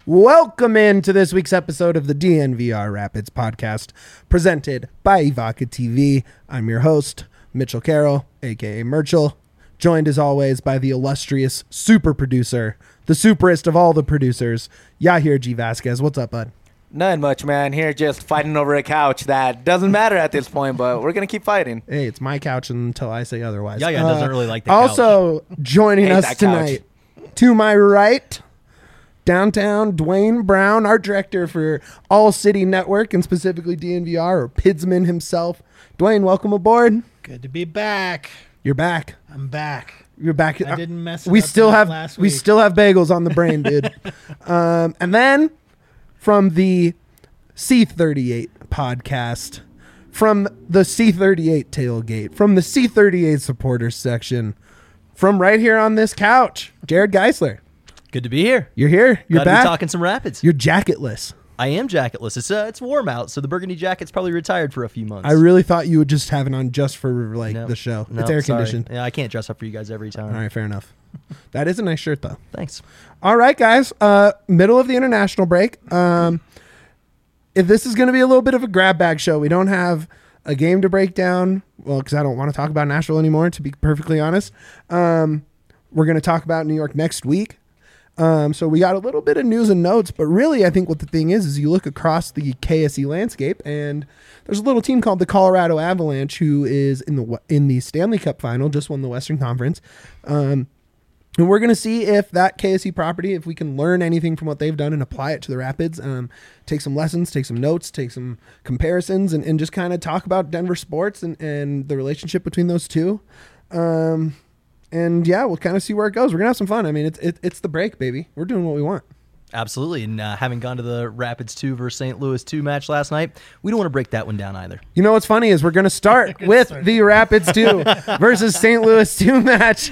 Welcome into this week's episode of the DNVR Rapids podcast, presented by Evoca TV. I'm your host, Mitchell Carroll, aka Merchel, joined as always by the illustrious super producer, the superest of all the producers, Yahir G. Vasquez. What's up, bud? Nothing much, man. Here just fighting over a couch that doesn't matter at this point, but we're going to keep fighting. Hey, it's my couch until I say otherwise. Yeah, doesn't really like the couch. Also joining Hate us that tonight, to my right, downtown Dwayne Brown, art director for All City Network and specifically DNVR, or Pidsman himself. Dwayne, welcome aboard. Good to be back. You're back. I'm back. You're back. I didn't mess it we up still have last we week. still have bagels on the brain, dude. And then from the C38 podcast, from the C38 tailgate, from the C38 supporters section, from right here on this couch, Jared Geisler. Good to be here. You're here. You're Glad back. to be talking some Rapids. You're jacketless. I am jacketless. It's warm out, so the burgundy jacket's probably retired for a few months. I really thought you would just have it on just for No, the show. no, It's air sorry. conditioned. Yeah, I can't dress up for you guys every time. All right, fair enough. That is a nice shirt though. Thanks. All right, guys. Middle of the international break. If this is going to be a little bit of a grab bag show, we don't have a game to break down. Well, because I don't want to talk about Nashville anymore, to be perfectly honest. We're going to talk about New York next week. So we got a little bit of news and notes, but really I think what the thing is you look across the KSE landscape and there's a little team called the Colorado Avalanche who is in the Stanley Cup final, just won the Western Conference. And we're going to see if that KSE property, if we can learn anything from what they've done and apply it to the Rapids, take some lessons, take some notes, take some comparisons, and just kind of talk about Denver sports and the relationship between those two. And yeah, we'll kind of see where it goes. We're going to have some fun. I mean, it's the break, baby. We're doing what we want. Absolutely. And having gone to the Rapids 2 versus St. Louis 2 match last night, we don't want to break that one down either. You know what's funny is we're going to start with the Rapids 2 versus St. Louis 2 match.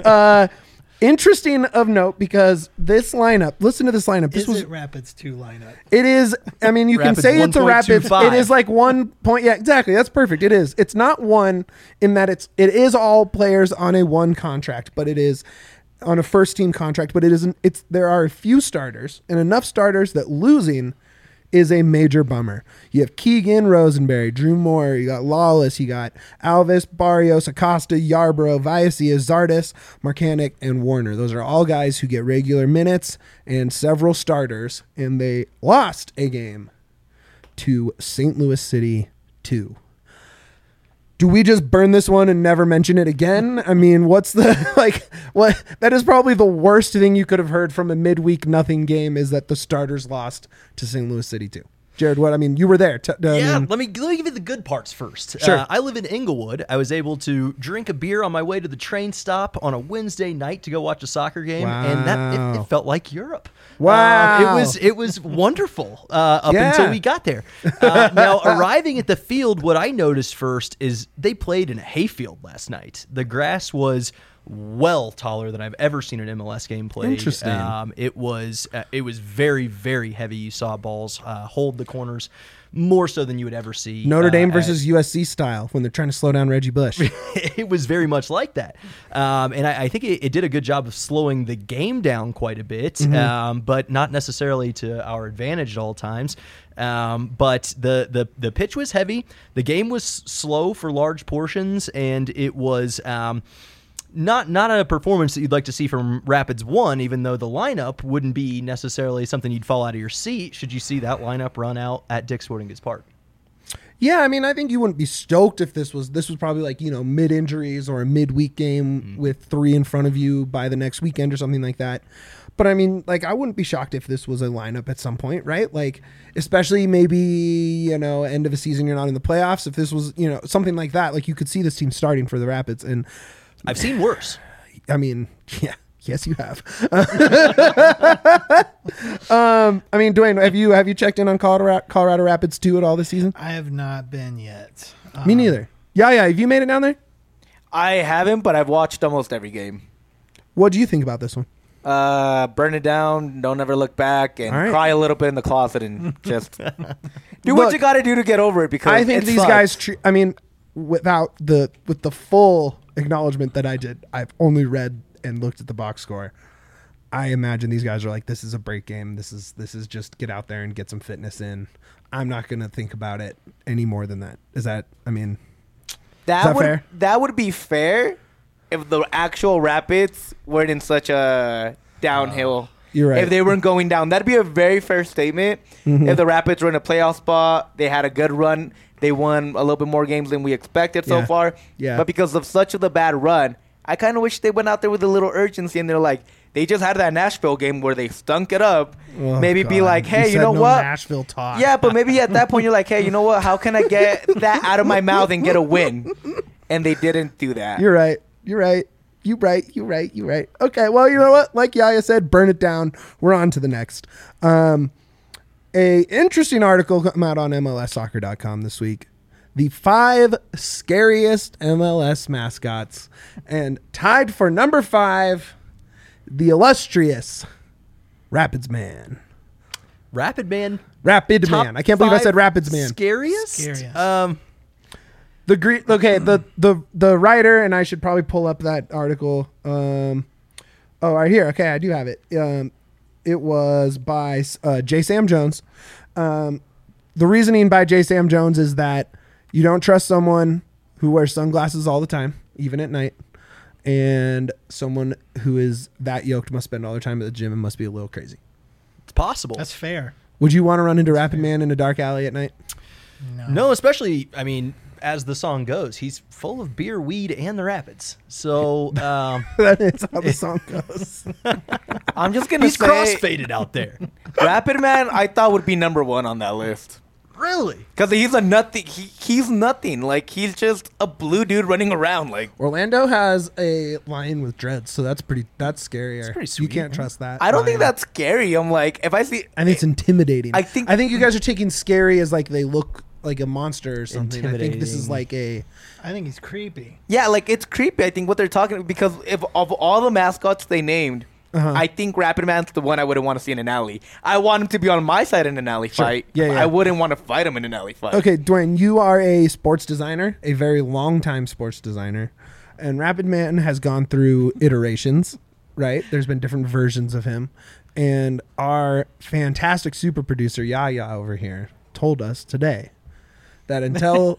Interesting of note because this lineup, listen to this lineup. This was Rapids 2 lineup. It is, I mean, you can Rapids say it's a Rapids. 1.25. It is like 1 point. Yeah, exactly. That's perfect. It is. It's not one in that it is all players on a one contract, but it is on a first team contract, but it isn't. There are a few starters and enough starters that losing is a major bummer. You have Keegan, Rosenberry, Drew Moore, you got Lawless, you got Alvis, Barrios, Acosta, Yarbrough, Viacia, Zardes, Marcanic, and Warner. Those are all guys who get regular minutes and several starters, and they lost a game to St. Louis City 2. Do we just burn this one and never mention it again? I mean, what's the, what? That is probably the worst thing you could have heard from a midweek nothing game is that the starters lost to St. Louis City 2. Jared, what? I mean, you were there. Let me give you the good parts first. Sure. I live in Inglewood. I was able to drink a beer on my way to the train stop on a Wednesday night to go watch a soccer game, and that it felt like Europe. Wow. It was wonderful until we got there. Now, arriving at the field, what I noticed first is they played in a hayfield last night. The grass was well taller than I've ever seen an MLS game played. Interesting. It was very, very heavy. You saw balls hold the corners more so than you would ever see. Notre Dame versus USC style when they're trying to slow down Reggie Bush. It was very much like that. And I think it did a good job of slowing the game down quite a bit, but not necessarily to our advantage at all times. But the pitch was heavy. The game was slow for large portions, and it was not a performance that you'd like to see from Rapids 1, even though the lineup wouldn't be necessarily something you'd fall out of your seat should you see that lineup run out at Dick's Sporting Goods Park. Yeah, I mean, I think you wouldn't be stoked if this was probably like, mid-injuries or a midweek game with 3 in front of you by the next weekend or something like that. But I mean, like, I wouldn't be shocked if this was a lineup at some point, right? Like, especially maybe, end of a season, you're not in the playoffs. If this was, something like that, like you could see this team starting for the Rapids. And I've seen worse. I mean, yeah. Yes, you have. Dwayne, have you checked in on Colorado Rapids 2 at all this season? I have not been yet. Me neither. Yeah. Have you made it down there? I haven't, but I've watched almost every game. What do you think about this one? Burn it down, don't ever look back, and right. cry a little bit in the closet and just do what you got to do to get over it. Because I think these guys, with the full acknowledgement that I've only read and looked at the box score. I imagine these guys are like, this is a break game. This is just get out there and get some fitness in. I'm not going to think about it any more than that. Is that, I mean, that would fair? That would be fair if the actual Rapids weren't in such a downhill. You're right. If they weren't going down, that'd be a very fair statement. If the Rapids were in a playoff spot, they had a good run, they won a little bit more games than we expected so Yeah. far. Yeah. But because of such a bad run, I kind of wish they went out there with a little urgency and they're like, they just had that Nashville game where they stunk it up. Oh, Maybe be God. like, hey, you said know no what? Nashville talk. Yeah, but maybe at that point you're like, hey, you know what? How can I get that out of my mouth and get a win? And they didn't do that. You're right. You're right. You're right. Okay, well, you know what? Like Yaya said, burn it down. We're on to the next. A interesting article come out on MLSsoccer.com this week. The 5 scariest MLS mascots. And tied for number 5, the illustrious Rapids Man. Rapid Man. Rapid top Man. I can't believe I 5 said Rapids Man. Scariest? Scariest. The the writer, and I should probably pull up that article. Right here. Okay, I do have it. It was by J. Sam Jones. The reasoning by J. Sam Jones is that you don't trust someone who wears sunglasses all the time, even at night, and someone who is that yoked must spend all their time at the gym and must be a little crazy. It's possible. That's fair. Would you want to run into Rapid Man in a dark alley at night? No, especially, I mean, as the song goes, he's full of beer, weed, and the Rapids. So That is how the song goes. I'm just going to he's say crossfaded out there. Rapid Man, I thought would be number 1 on that list. Really? Because he's a nothing. He's nothing. Like, he's just a blue dude running around. Like, Orlando has a lion with dreads, so that's scarier. pretty You sweet, can't yeah. trust that. I don't think lion. that's scary. I'm like, if I see, I think it's intimidating. I think you guys are taking scary as like they look like a monster or something. I think this is Intimidating. like a I think he's creepy. yeah, like it's creepy. I think what they're talking because if of all the mascots they named, I think Rapid Man's the one I wouldn't want to see in an alley. I want him to be on my side in an alley fight. Yeah, yeah. I wouldn't want to fight him in an alley fight. okay. Dwayne, you are a sports designer, a very long time sports designer, and Rapid Man has gone through iterations. Right? There's been different versions of him, and our fantastic super producer Yaya over here told us today that until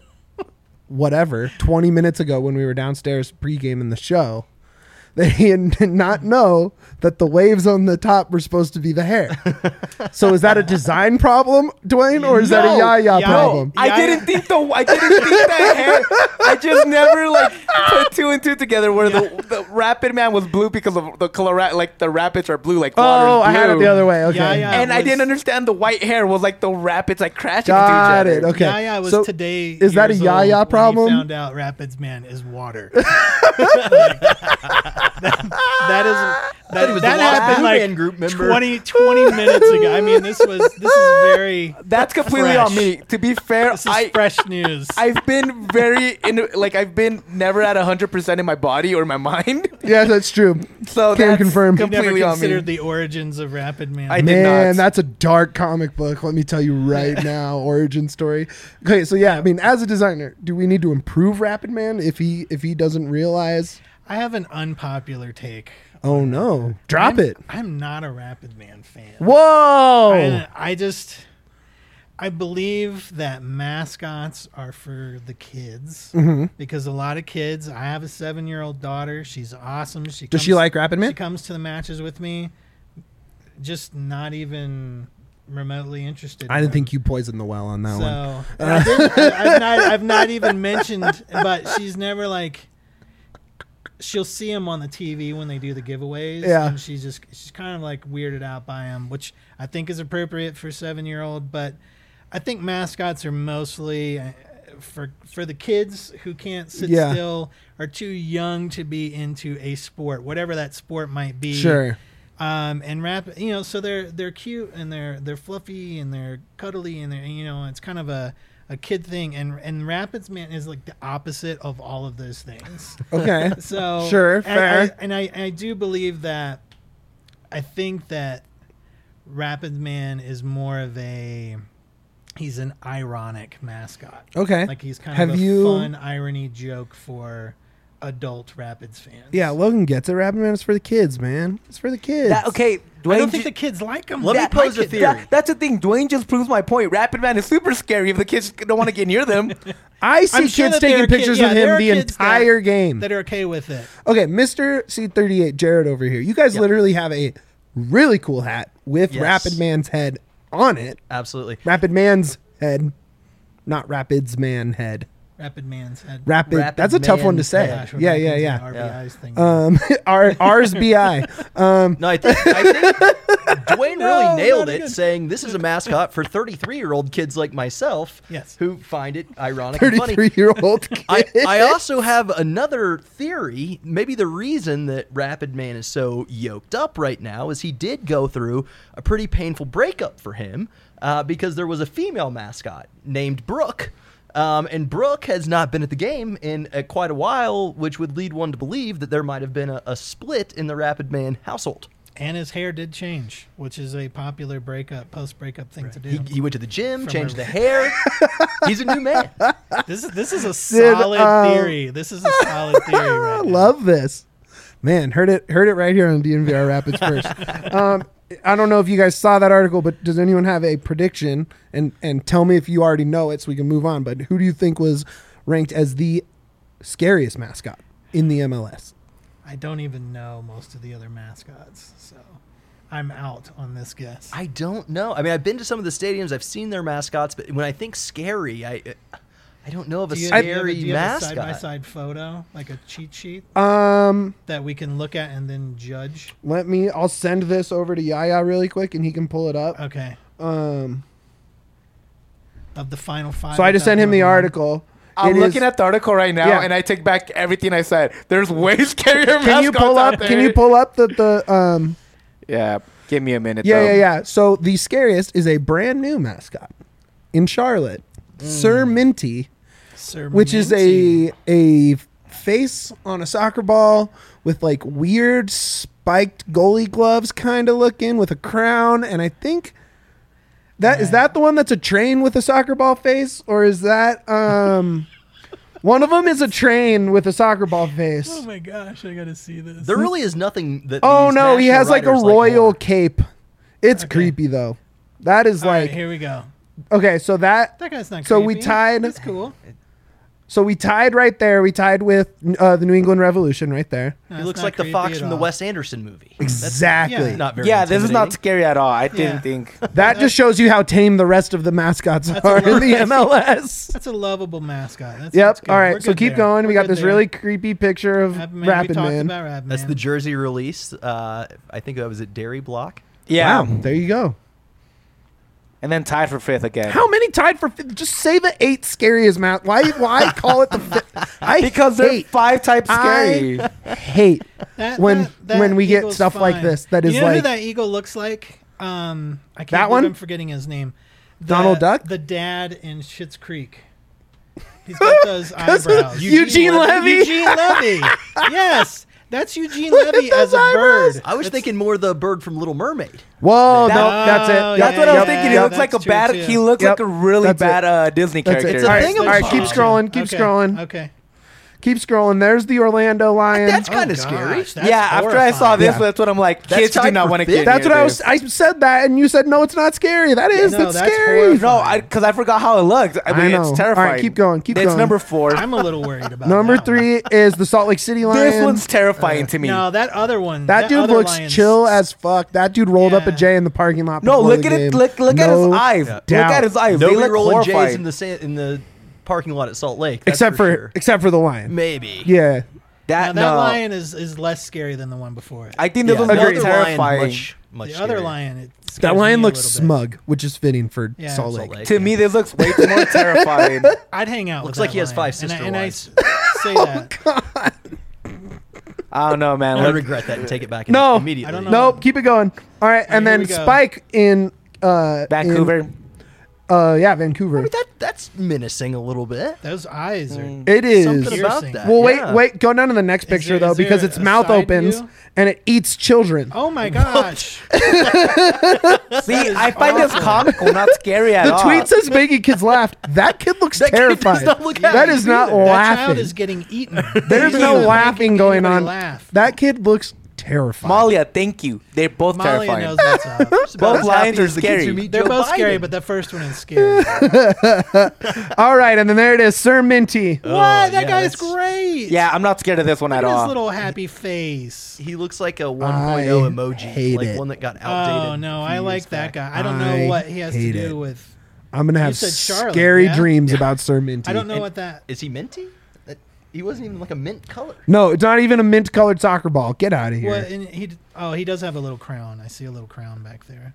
20 minutes ago when we were downstairs pre-gaming the show, they did not know that the waves on the top were supposed to be the hair. So is that a design problem, Dwayne, or is that a Yaya problem? I didn't think that hair. I just never like put 2 and 2 together where the Rapid Man was blue because of the color, like the Rapids are blue, like water's Oh, I had it blue. the other way. Okay. Yaya And I was- didn't understand the white hair was like the Rapids like crashing Got into each it. other. Okay. Yaya was So today. is that a years Yaya old problem? When he found out Rapids Man is water. that he was the Lost happened Blue like Man group member. 20 minutes ago. I mean, this is very. That's completely Fresh. on me. To be fair, This is fresh news. I've been I've been never at 100% in my body or my mind. Yeah, that's true. So Can that's confirm. You've never completely on me. considered the origins of Rapid Man. I did Man, not. that's a dark comic book. Let me tell you right now, origin story. Okay, so yeah, I mean, as a designer, do we need to improve Rapid Man if he doesn't realize? I have an unpopular take. Oh no, drop it! I'm not a Rapid Man fan. Whoa! I believe that mascots are for the kids Mm-hmm. because a lot of kids. I have a 7-year-old daughter. She's awesome. Does she like Rapid Man? She comes to the matches with me. Just not even remotely interested. I in didn't them. think you poisoned the well on that one. So I've not even mentioned, but she's never like. She'll see him on the TV when they do the giveaways. Yeah. And she's kind of like weirded out by him, which I think is appropriate for a 7-year-old. But I think mascots are mostly for the kids who can't sit Yeah. still, are too young to be into a sport, whatever that sport might be. Sure. And so they're cute and they're fluffy and they're cuddly and it's kind of a kid thing, and Rapids Man is like the opposite of all of those things. Okay. So Sure, fair. I do believe that. I think that Rapids Man is more of he's an ironic mascot. Okay. Like he's kind Have of a you- fun irony joke for adult Rapids fans. Yeah, Logan gets it. Rapid Man is for the kids, man. It's for the kids. Okay, I Dwayne. don't think the kids like them. Let me pose a theory. That's the thing. Dwayne just proves my point. Rapid Man is super scary if the kids don't want to get near them. I see I'm sure kids that there taking are kid- pictures yeah, with there him are the kids entire game. that are okay with it. Okay, Mr. C38, Jared over here. You guys literally have a really cool hat with Yes. Rapid Man's head on it. Absolutely. Rapid Man's head, not Rapids Man head. Rapid Man's head. Rapid. Rapid that's a tough one to Man's say. head. Gosh, we're Yeah, back yeah, into yeah. the RBI's thing. Ours BI. No, I think Dwayne No, really nailed not it, again. saying this is a mascot for 33-year-old kids like myself Yes. who find it ironic and funny. 33-year-old kid. I also have another theory. Maybe the reason that Rapid Man is so yoked up right now is he did go through a pretty painful breakup for him because there was a female mascot named Brooke. And Brooke has not been at the game in quite a while, which would lead one to believe that there might have been a split in the Rapid Man household. And his hair did change, which is a popular post-breakup thing to do. He went to the gym, From changed a- the hair. He's a new man. This is a solid theory. This is a solid theory I right now. love this. Man, heard it right here on DNVR Rapids first. I don't know if you guys saw that article, but does anyone have a prediction? And tell me if you already know it so we can move on. But who do you think was ranked as the scariest mascot in the MLS? I don't even know most of the other mascots, so I'm out on this guess. I don't know. I mean, I've been to some of the stadiums. I've seen their mascots, but when I think scary, I don't know of a do you have scary a mascot. side-by-side photo, like a cheat sheet Um, that we can look at and then judge? I'll send this over to Yaya really quick and he can pull it up. Okay. Um, Of the final five. so I just without sent him the number one. article. I'm It is- looking at the article right now, Yeah. and I take back everything I said. There's way scarier Can you mascots pull out up? there. Can you pull up the Yeah, give me a minute. Yeah, though. yeah, yeah. So the scariest is a brand new mascot in Charlotte, Sir Minty, Sir which is Minty. a face on a soccer ball with like weird spiked goalie gloves kind of looking with a crown, and I think is that the one that's a train with a soccer ball face, or is that one of them is a train with a soccer ball face? Oh my gosh, I gotta see this. There really is nothing that. Oh these no, he national has like a writers royal more. cape. It's Okay. creepy though. That is All right, like here we go. okay, so that That guy's not. So we creepy. tied- That's cool. so we tied right there. We tied with the New England Revolution right there. No, He it's looks not like the creepy fox at from the all. Wes Anderson movie. Exactly. Yeah. Not very. Yeah, this is not intimidating. scary at all. I Yeah. didn't think. That just shows you how tame the rest of the mascots That's are a in the lot. MLS. That's a lovable mascot. That's Yep. good. All We're right. So good keep there. going. We We're got good this there. really creepy picture of Rapid Man. Rapid We talked Man. about Rapid That's Man. the jersey release. I think that was at Dairy Block. Yeah, Wow. There you go. and then tied for fifth again. How many tied for fifth? Just say the 8 scariest mascot. Why call it the fifth? I Because they're hate, 5 types scary. I hate when we get eagle's stuff like fine. this that is you know who like that eagle looks like? I can't That believe one? I'm forgetting his name. Donald Duck? The dad in Schitt's Creek. He's got those eyebrows. Eugene Levy. Eugene Levy. Yes, that's Eugene Levy at as those a eyebrows. bird. I was thinking more the bird from Little Mermaid. Whoa, That- no, that's it. Oh, That's yeah, what I was yeah, thinking. He yeah, looks like a that's true, bad. too. He looks Yep. like a really That's it. bad Disney That's character. it. It's a All right, thing all of right, keep bullshit. scrolling. Keep scrolling. Okay. Keep scrolling. There's the Orlando Lions. That's kind of gosh, scary. that's Yeah, after I saw horrifying. this, Yeah. that's what I'm like. That's Kids do tied not for want to fifth. get. That's near what this. I said that, and you said no, it's not scary. That is. No, that's that's scary. horrifying. No, because I forgot how it looked. I mean, know. it's All terrifying. right, keep going, keep it's going. number 4. I'm a little worried about Number that one. 3 is the Salt Lake City Lions. This one's terrifying to me. No, that other one. that dude other looks lion's- chill as fuck. That dude rolled up a Yeah. J in the parking lot. No, before look the at it. game. Look at his No eyes. Yeah. Look doubt. at his eyes. Nobody they look rolling J's horrifying. in the parking lot at Salt Lake. That's except for for the lion. maybe. Yeah. Now, That that no. lion is less scary than the one before it. I think Yeah, this the one's more Agreed. other lion terrifying. much The other scarier. lion, it That scares lion me a looks little bit. smug, which is fitting for Yeah. Salt Salt Lake. Lake. To me, this looks way more terrifying. I'd hang out. Looks with like that he has lion. 5 sister and I wives. say that. I don't know, man. I Look, regret that and take it back No. immediately. I don't know. Nope, keep it going. All right, and here then we go. Spike in Vancouver. Yeah, Vancouver. I mean, that's menacing a little bit. Those eyes are. It is. Something about Piercing. that. Well, yeah. wait. Go down to the next picture, there- though, is there because its a mouth side opens view? and it eats children. Oh my gosh! See, I find this comical, not scary at The all. tweet says making kids laugh. That kid looks That kid does terrified. not look That happy is not either. That child laughing. is getting eaten. There's He's no not laughing making going anybody on. Laugh. That kid looks terrified. Malia, thank you. They're both Malia terrifying. knows what's up. Just about Both as lions happy are as the kids scary. who meet They're Joe both scary, Biden. but the first one is scary. All right, and then there it is, Sir Minty. What? That yeah, guy's that's- great. Yeah, I'm not scared of this one Look at at his all. little happy face. He looks like a 1.0 I emoji, hate like it. one that got outdated. Oh no, a few I like years that back. guy. I don't I know what he has to hate do it. with. I'm gonna have said Charlotte, scary yeah? dreams about Sir Minty. I don't know And- what that. Is he minty? He wasn't even like a mint color. No, it's not even a mint-colored soccer ball. Get out of here. What? And he does have a little crown. I see a little crown back there.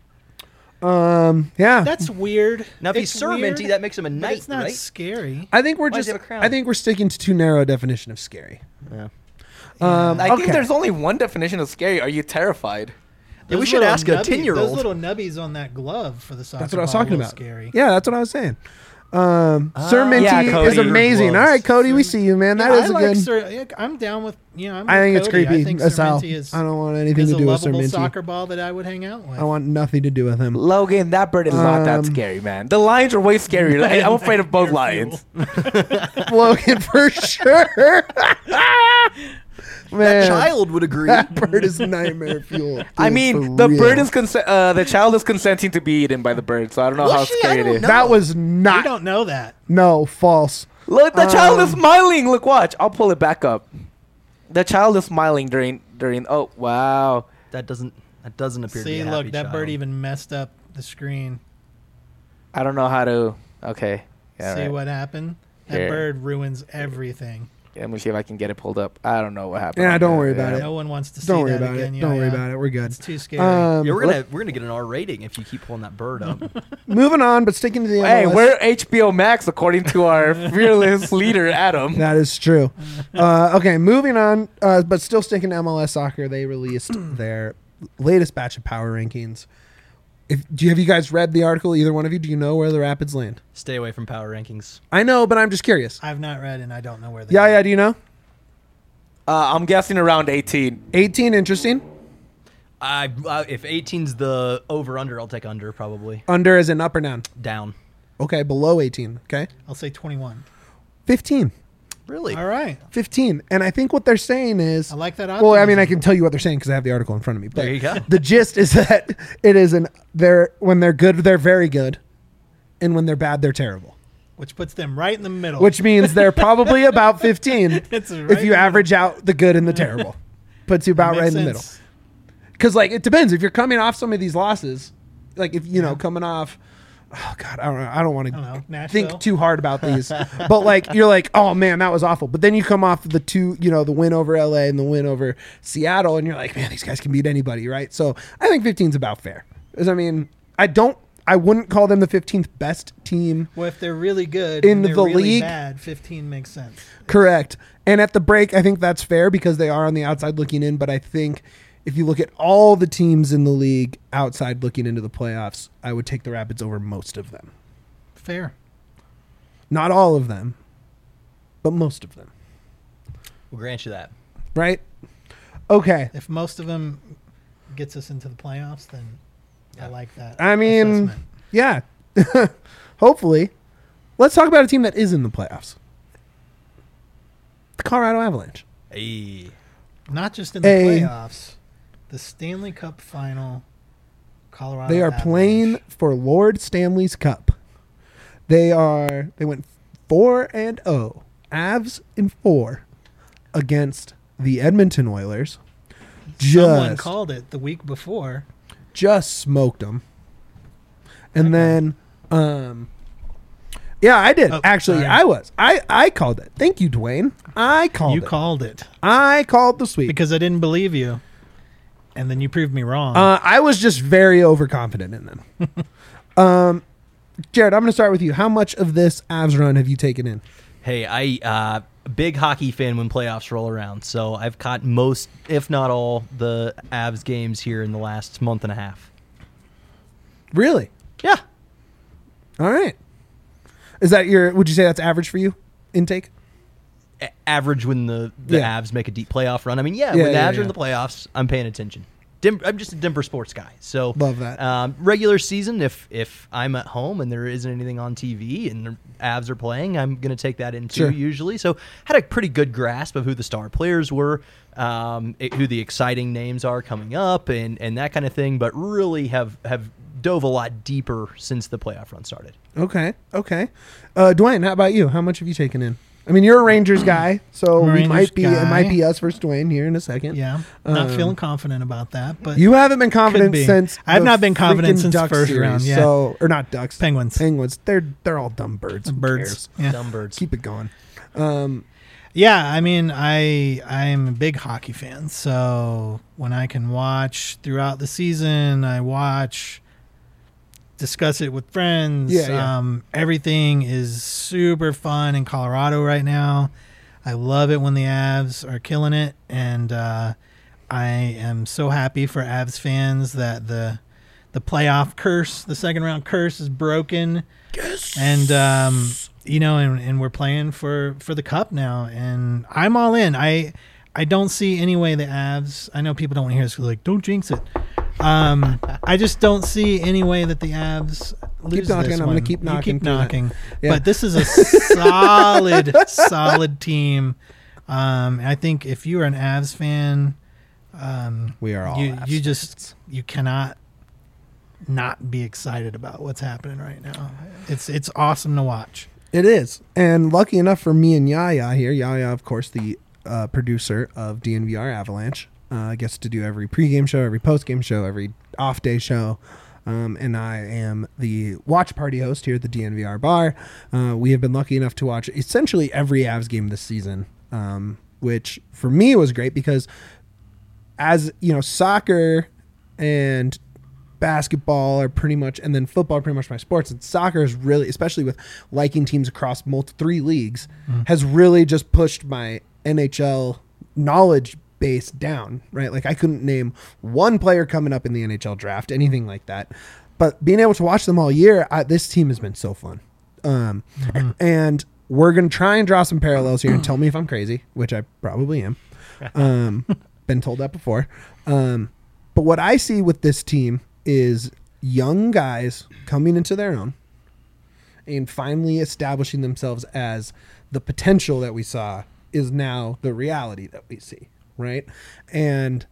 Yeah. That's weird. Now, if he's It's Sir weird, Minty, that makes him a but knight, it's not right? scary. I think we're Why does just. he have a crown? I think we're sticking to too narrow a definition of scary. Yeah. I think okay. there's only one definition of scary. Are you terrified? Yeah, we Those should little ask a nubbies- 10-year-old. Those little nubbies on that glove for the soccer That's what I was ball talking are about. Scary. Yeah, that's what I was saying. Sir Minty yeah, is Cody. amazing. Gloves. All right, Cody, we see you, man. That Yeah, is I a like good. Sir, yeah, I'm down with I'm I with think it's Cody. creepy. I think That's Sir how. Minty is, I don't want anything is to a do with Sir lovable Minty. soccer ball that I would hang out with. I want nothing to do with him. Logan, that bird is not that scary, man. The lions are way scarier. I'm afraid of both lions. Logan, for sure. Man, That child would agree. that bird is nightmare fuel. I dude, mean, for the real. bird is the child is consenting to be eaten by the bird, so I don't know Was how she? I scary it don't is. know. That was We not. don't know that. No, false. Look, the child is smiling. Look, watch. I'll pull it back up. The child is smiling during. Oh wow. That doesn't appear to be See, a look, happy that child. bird even messed up the screen. I don't know how to. Okay. Yeah, See right. what happened? That Here. bird ruins everything. Let me see if I can get it pulled up. I don't know what happened. Yeah, don't worry about it. No one wants to see Don't worry that about again. it. Yeah, Don't worry yeah. about it. We're good. It's too scary. Yeah, we're gonna get an R rating if you keep pulling that bird up. Moving on, but sticking to the MLS. Hey, we're HBO Max according to our fearless leader Adam. That is true. Okay, moving on, but still sticking to MLS soccer. They released their latest batch of power rankings. Have you guys read the article? Either one of you? Do you know where the Rapids land? Stay away from power rankings. I know, but I'm just curious. I've not read and I don't know where they Yeah, do you know? I'm guessing around 18. 18, interesting. If 18's the over under, I'll take under probably. Under as in up or down? Down. Okay, below 18. Okay. I'll say 21. 15. Really? All right. 15. And I think what they're saying is... I like that Well, I mean, optimism. I can tell you what they're saying because I have the article in front of me. But There you go. the gist is that it is when they're good, they're very good. And when they're bad, they're terrible. Which puts them right in the middle. Which means they're probably about 15 It's right if in you the average out the good and the terrible. Puts you about Makes right in the middle. sense. Because, like, it depends. If you're coming off some of these losses, like, if, coming off... Oh, God, I don't want I don't know, to Nashville? think too hard about these. But, like, you're like, oh, man, that was awful. But then you come off the the win over LA and the win over Seattle, and you're like, man, these guys can beat anybody, right? So I think 15's about fair. Because, I mean, I wouldn't call them the 15th best team. Well, if they're really good In and they're the really league- bad, 15 makes sense. Correct. And at the break, I think that's fair because they are on the outside looking in. But I think if you look at all the teams in the league outside looking into the playoffs, I would take the Rapids over most of them. Fair. Not all of them, but most of them. We'll grant you that. Right? Okay. If most of them gets us into the playoffs, then I like that. I mean, assessment. yeah. Hopefully. Let's talk about a team that is in the playoffs. The Colorado Avalanche. Hey. Not just in the Hey. playoffs, the Stanley Cup final. Colorado. They are Avalanche. playing for Lord Stanley's Cup. They went 4-0, Avs in 4 against the Edmonton Oilers. Someone called it the week before. Just smoked them. And Okay. then yeah, I did. Oh, Actually, sorry. I called it. Thank you, Dwayne. I called it. Called it I called the sweep. because I didn't believe you, and then you proved me wrong. I was just very overconfident in them. Jared, I'm going to start with you. How much of this Avs run have you taken in? Hey, a big hockey fan when playoffs roll around, so I've caught most, if not all, the Avs games here in the last month and a half. Really? Yeah. All right. Is that would you say that's average for you, intake? Average when the Yeah. Avs make a deep playoff run. I mean, when the Avs are in the playoffs, I'm paying attention. I'm just a Denver sports guy, so Love that. Regular season, if I'm at home and there isn't anything on TV and the Avs are playing, I'm going to take that in too. Sure. Usually, so had a pretty good grasp of who the star players were, who the exciting names are coming up, and that kind of thing. But really have dove a lot deeper since the playoff run started. Okay. Dwayne, how about you? How much have you taken in? I mean, you're a Rangers guy, so it might be us versus Dwayne here in a second. Yeah, not feeling confident about that, but You haven't been confident be. since I've the not been confident freaking since the Ducks first series, round, yeah. So, or not Ducks, Penguins. They're all dumb birds. Who birds. cares? Yeah. Dumb birds. Keep it going. Yeah, I mean, I'm a big hockey fan, so when I can watch throughout the season, I watch, discuss it with friends. Yeah. Everything is super fun in Colorado right now. I love it when the Avs are killing it, and I am so happy for Avs fans that the playoff curse, the second round curse, is broken. Yes. And and we're playing for the cup now, and I'm all in. I don't see any way the Avs. I know people don't want to hear this, like, don't jinx it. I just don't see any way that the Avs lose Keep knocking. this I'm one. going to keep knocking. You keep through that. knocking. Yeah. But this is a solid team. I think if you are an Avs fan, We are all you cannot not be excited about what's happening right now. It's awesome to watch. It is. And lucky enough for me and Yaya here, Yaya, of course, the producer of DNVR Avalanche, gets to do every pregame show, every postgame show, every off-day show. And I am the watch party host here at the DNVR bar. We have been lucky enough to watch essentially every Avs game this season, which for me was great because as, soccer and basketball are pretty much, and then football are pretty much my sports, and soccer is really, especially with liking teams across 3 leagues, has really just pushed my NHL knowledge base down, right? Like I couldn't name one player coming up in the NHL draft, anything like that. But being able to watch them all year, this team has been so fun. And we're going to try and draw some parallels here and tell me if I'm crazy, which I probably am. Been told that before. But what I see with this team is young guys coming into their own and finally establishing themselves as the potential that we saw is now the reality that we see, right? And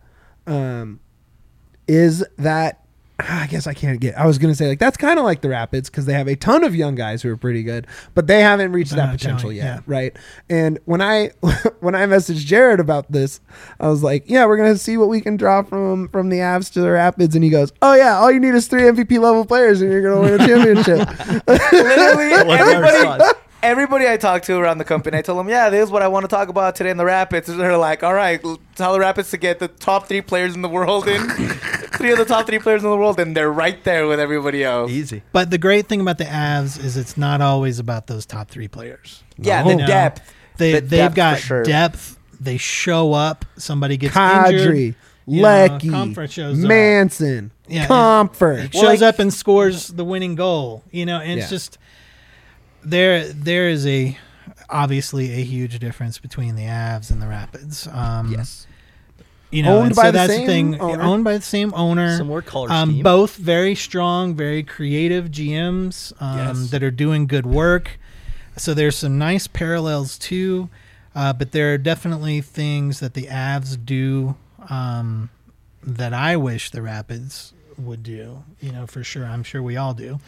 is that, I guess I was going to say, like, that's kind of like the Rapids because they have a ton of young guys who are pretty good, but they haven't reached that potential yet, yeah. right? And when I messaged Jared about this, I was like, yeah, we're going to see what we can draw from the Avs to the Rapids. And he goes, oh, yeah, all you need is 3 MVP level players and you're going to win a championship. Literally, everybody I talk to around the company, I tell them, yeah, this is what I want to talk about today in the Rapids. And they're like, all right, tell the Rapids to get the top 3 players in the world in. 3 of the top 3 players in the world, and they're right there with everybody else. Easy. But the great thing about the Avs is it's not always about those top 3 players. Yeah, No. the depth. They've got for sure. depth. They show up. Somebody gets Kadri, injured. Lecky, Comfort shows up. Manson, Yeah, Comfort. Shows up and scores the winning goal. And it's Yeah. just there is obviously a huge difference between the Avs and the Rapids. Yes. Owned Owned by by the the that's same the thing. owner. Owned by the same owner. Similar color scheme. Both very strong, very creative GMs Yes. that are doing good work. So there's some nice parallels too, but there are definitely things that the Avs do that I wish the Rapids would do. For sure. I'm sure we all do.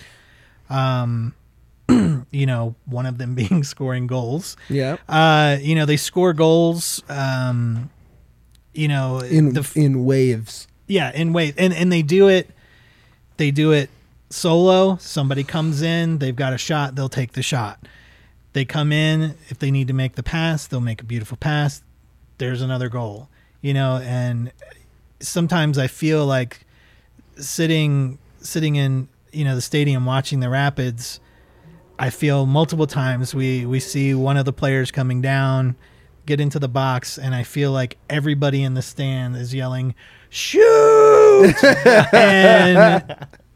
One of them being scoring goals. Yeah. They score goals. In waves. Yeah, in ways, and they do it solo. Somebody comes in, they've got a shot, they'll take the shot. They come in, if they need to make the pass, they'll make a beautiful pass. There's another goal, and sometimes I feel like sitting in, the stadium watching the Rapids, I feel multiple times we see one of the players coming down, get into the box, and I feel like everybody in the stand is yelling, shoot! and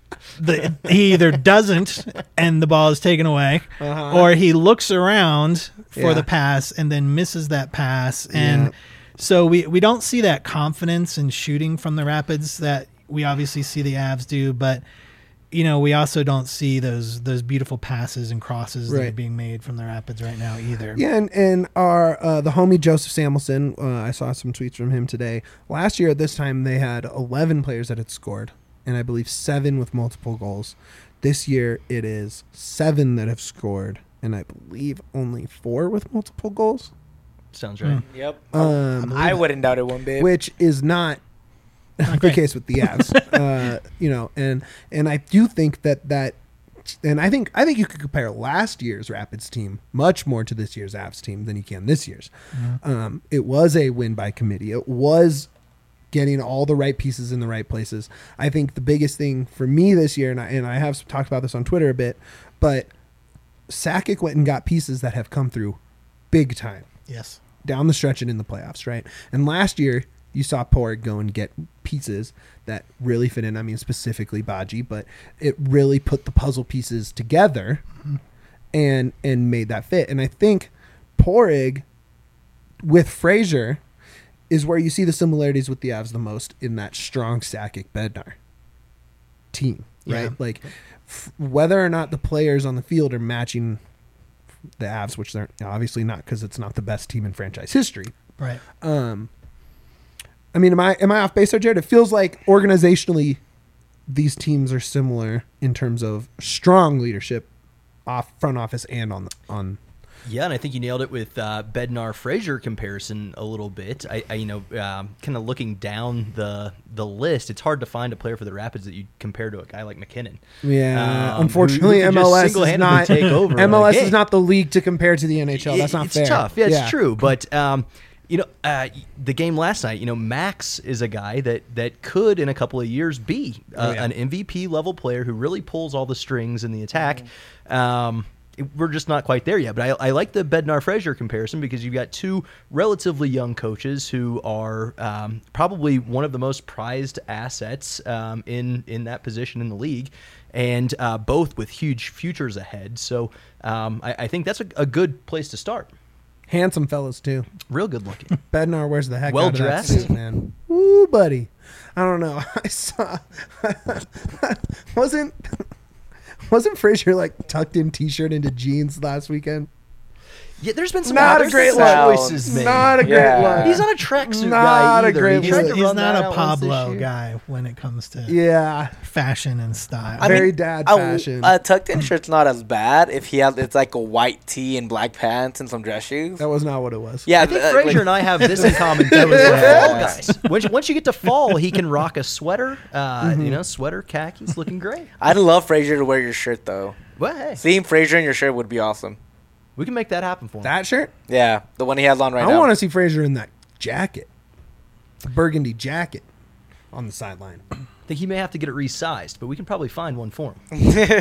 he either doesn't and the ball is taken away, or he looks around for the pass and then misses that pass. And so we don't see that confidence in shooting from the Rapids that we obviously see the Avs do, but we also don't see those beautiful passes and crosses that are being made from the Rapids right now either. Yeah, and our the homie Joseph Samuelson, I saw some tweets from him today. Last year at this time, they had 11 players that had scored, and I believe 7 with multiple goals. This year, it is 7 that have scored, and I believe only 4 with multiple goals. Sounds right. Yep. I wouldn't doubt it one bit. Which is not the case with the Avs, and I do think that, and I think you could compare last year's Rapids team much more to this year's Avs team than you can this year's. It was a win by committee. It was getting all the right pieces in the right places. I think the biggest thing for me this year, and I have talked about this on Twitter a bit, but Sakic went and got pieces that have come through big time. Yes. Down the stretch and in the playoffs, right? And last year, you saw Porig go and get pieces that really fit in. I mean, specifically Baji, but it really put the puzzle pieces together and made that fit. And I think Porig with Frazier is where you see the similarities with the Avs the most in that strong Sakic Bednar team, right? Yeah. Like whether or not the players on the field are matching the Avs, which they're obviously not because it's not the best team in franchise history. Right. I mean, am I off base there, Jared? It feels like organizationally these teams are similar in terms of strong leadership off front office and on. Yeah, and I think you nailed it with Bednar Frazier comparison a little bit. I kind of looking down the list, it's hard to find a player for the Rapids that you compare to a guy like McKinnon. Yeah, unfortunately, who MLS just is not take over. MLS is not the league to compare to the NHL. That's not fair. It's tough. Yeah, it's true. But the game last night, Max is a guy that could in a couple of years be an MVP level player who really pulls all the strings in the attack. We're just not quite there yet. But I like the Bednar Frazier comparison because you've got 2 relatively young coaches who are probably one of the most prized assets in that position in the league, and both with huge futures ahead. So I think that's a good place to start. Handsome fellas too. Real good looking. Bednar wears the heck Well out of that dressed. suit, man. Woo, buddy. I don't know. I saw wasn't Frazier like tucked in t-shirt into jeans last weekend? Yeah, there's been some Not a great look. choices made. Not a great look. He's not a tracksuit Not guy a either. great He tried look. to He's run not that a out once this Pablo year. guy when it comes to Yeah. fashion and style. Very dad fashion. A tucked-in shirt's not as bad if it's like a white tee and black pants and some dress shoes. That was not what it was. Yeah, I think Frazier and I have this in common too as fall guys. Once you get to fall, he can rock a sweater, sweater khakis, looking great. I'd love Frazier to wear your shirt though. Well, hey, Seeing Frazier in your shirt would be awesome. we can make that happen for him. That shirt? Yeah, the one he has on right I now. want to see Frazier in that jacket. The burgundy jacket on the sideline. I think he may have to get it resized, but we can probably find one for him.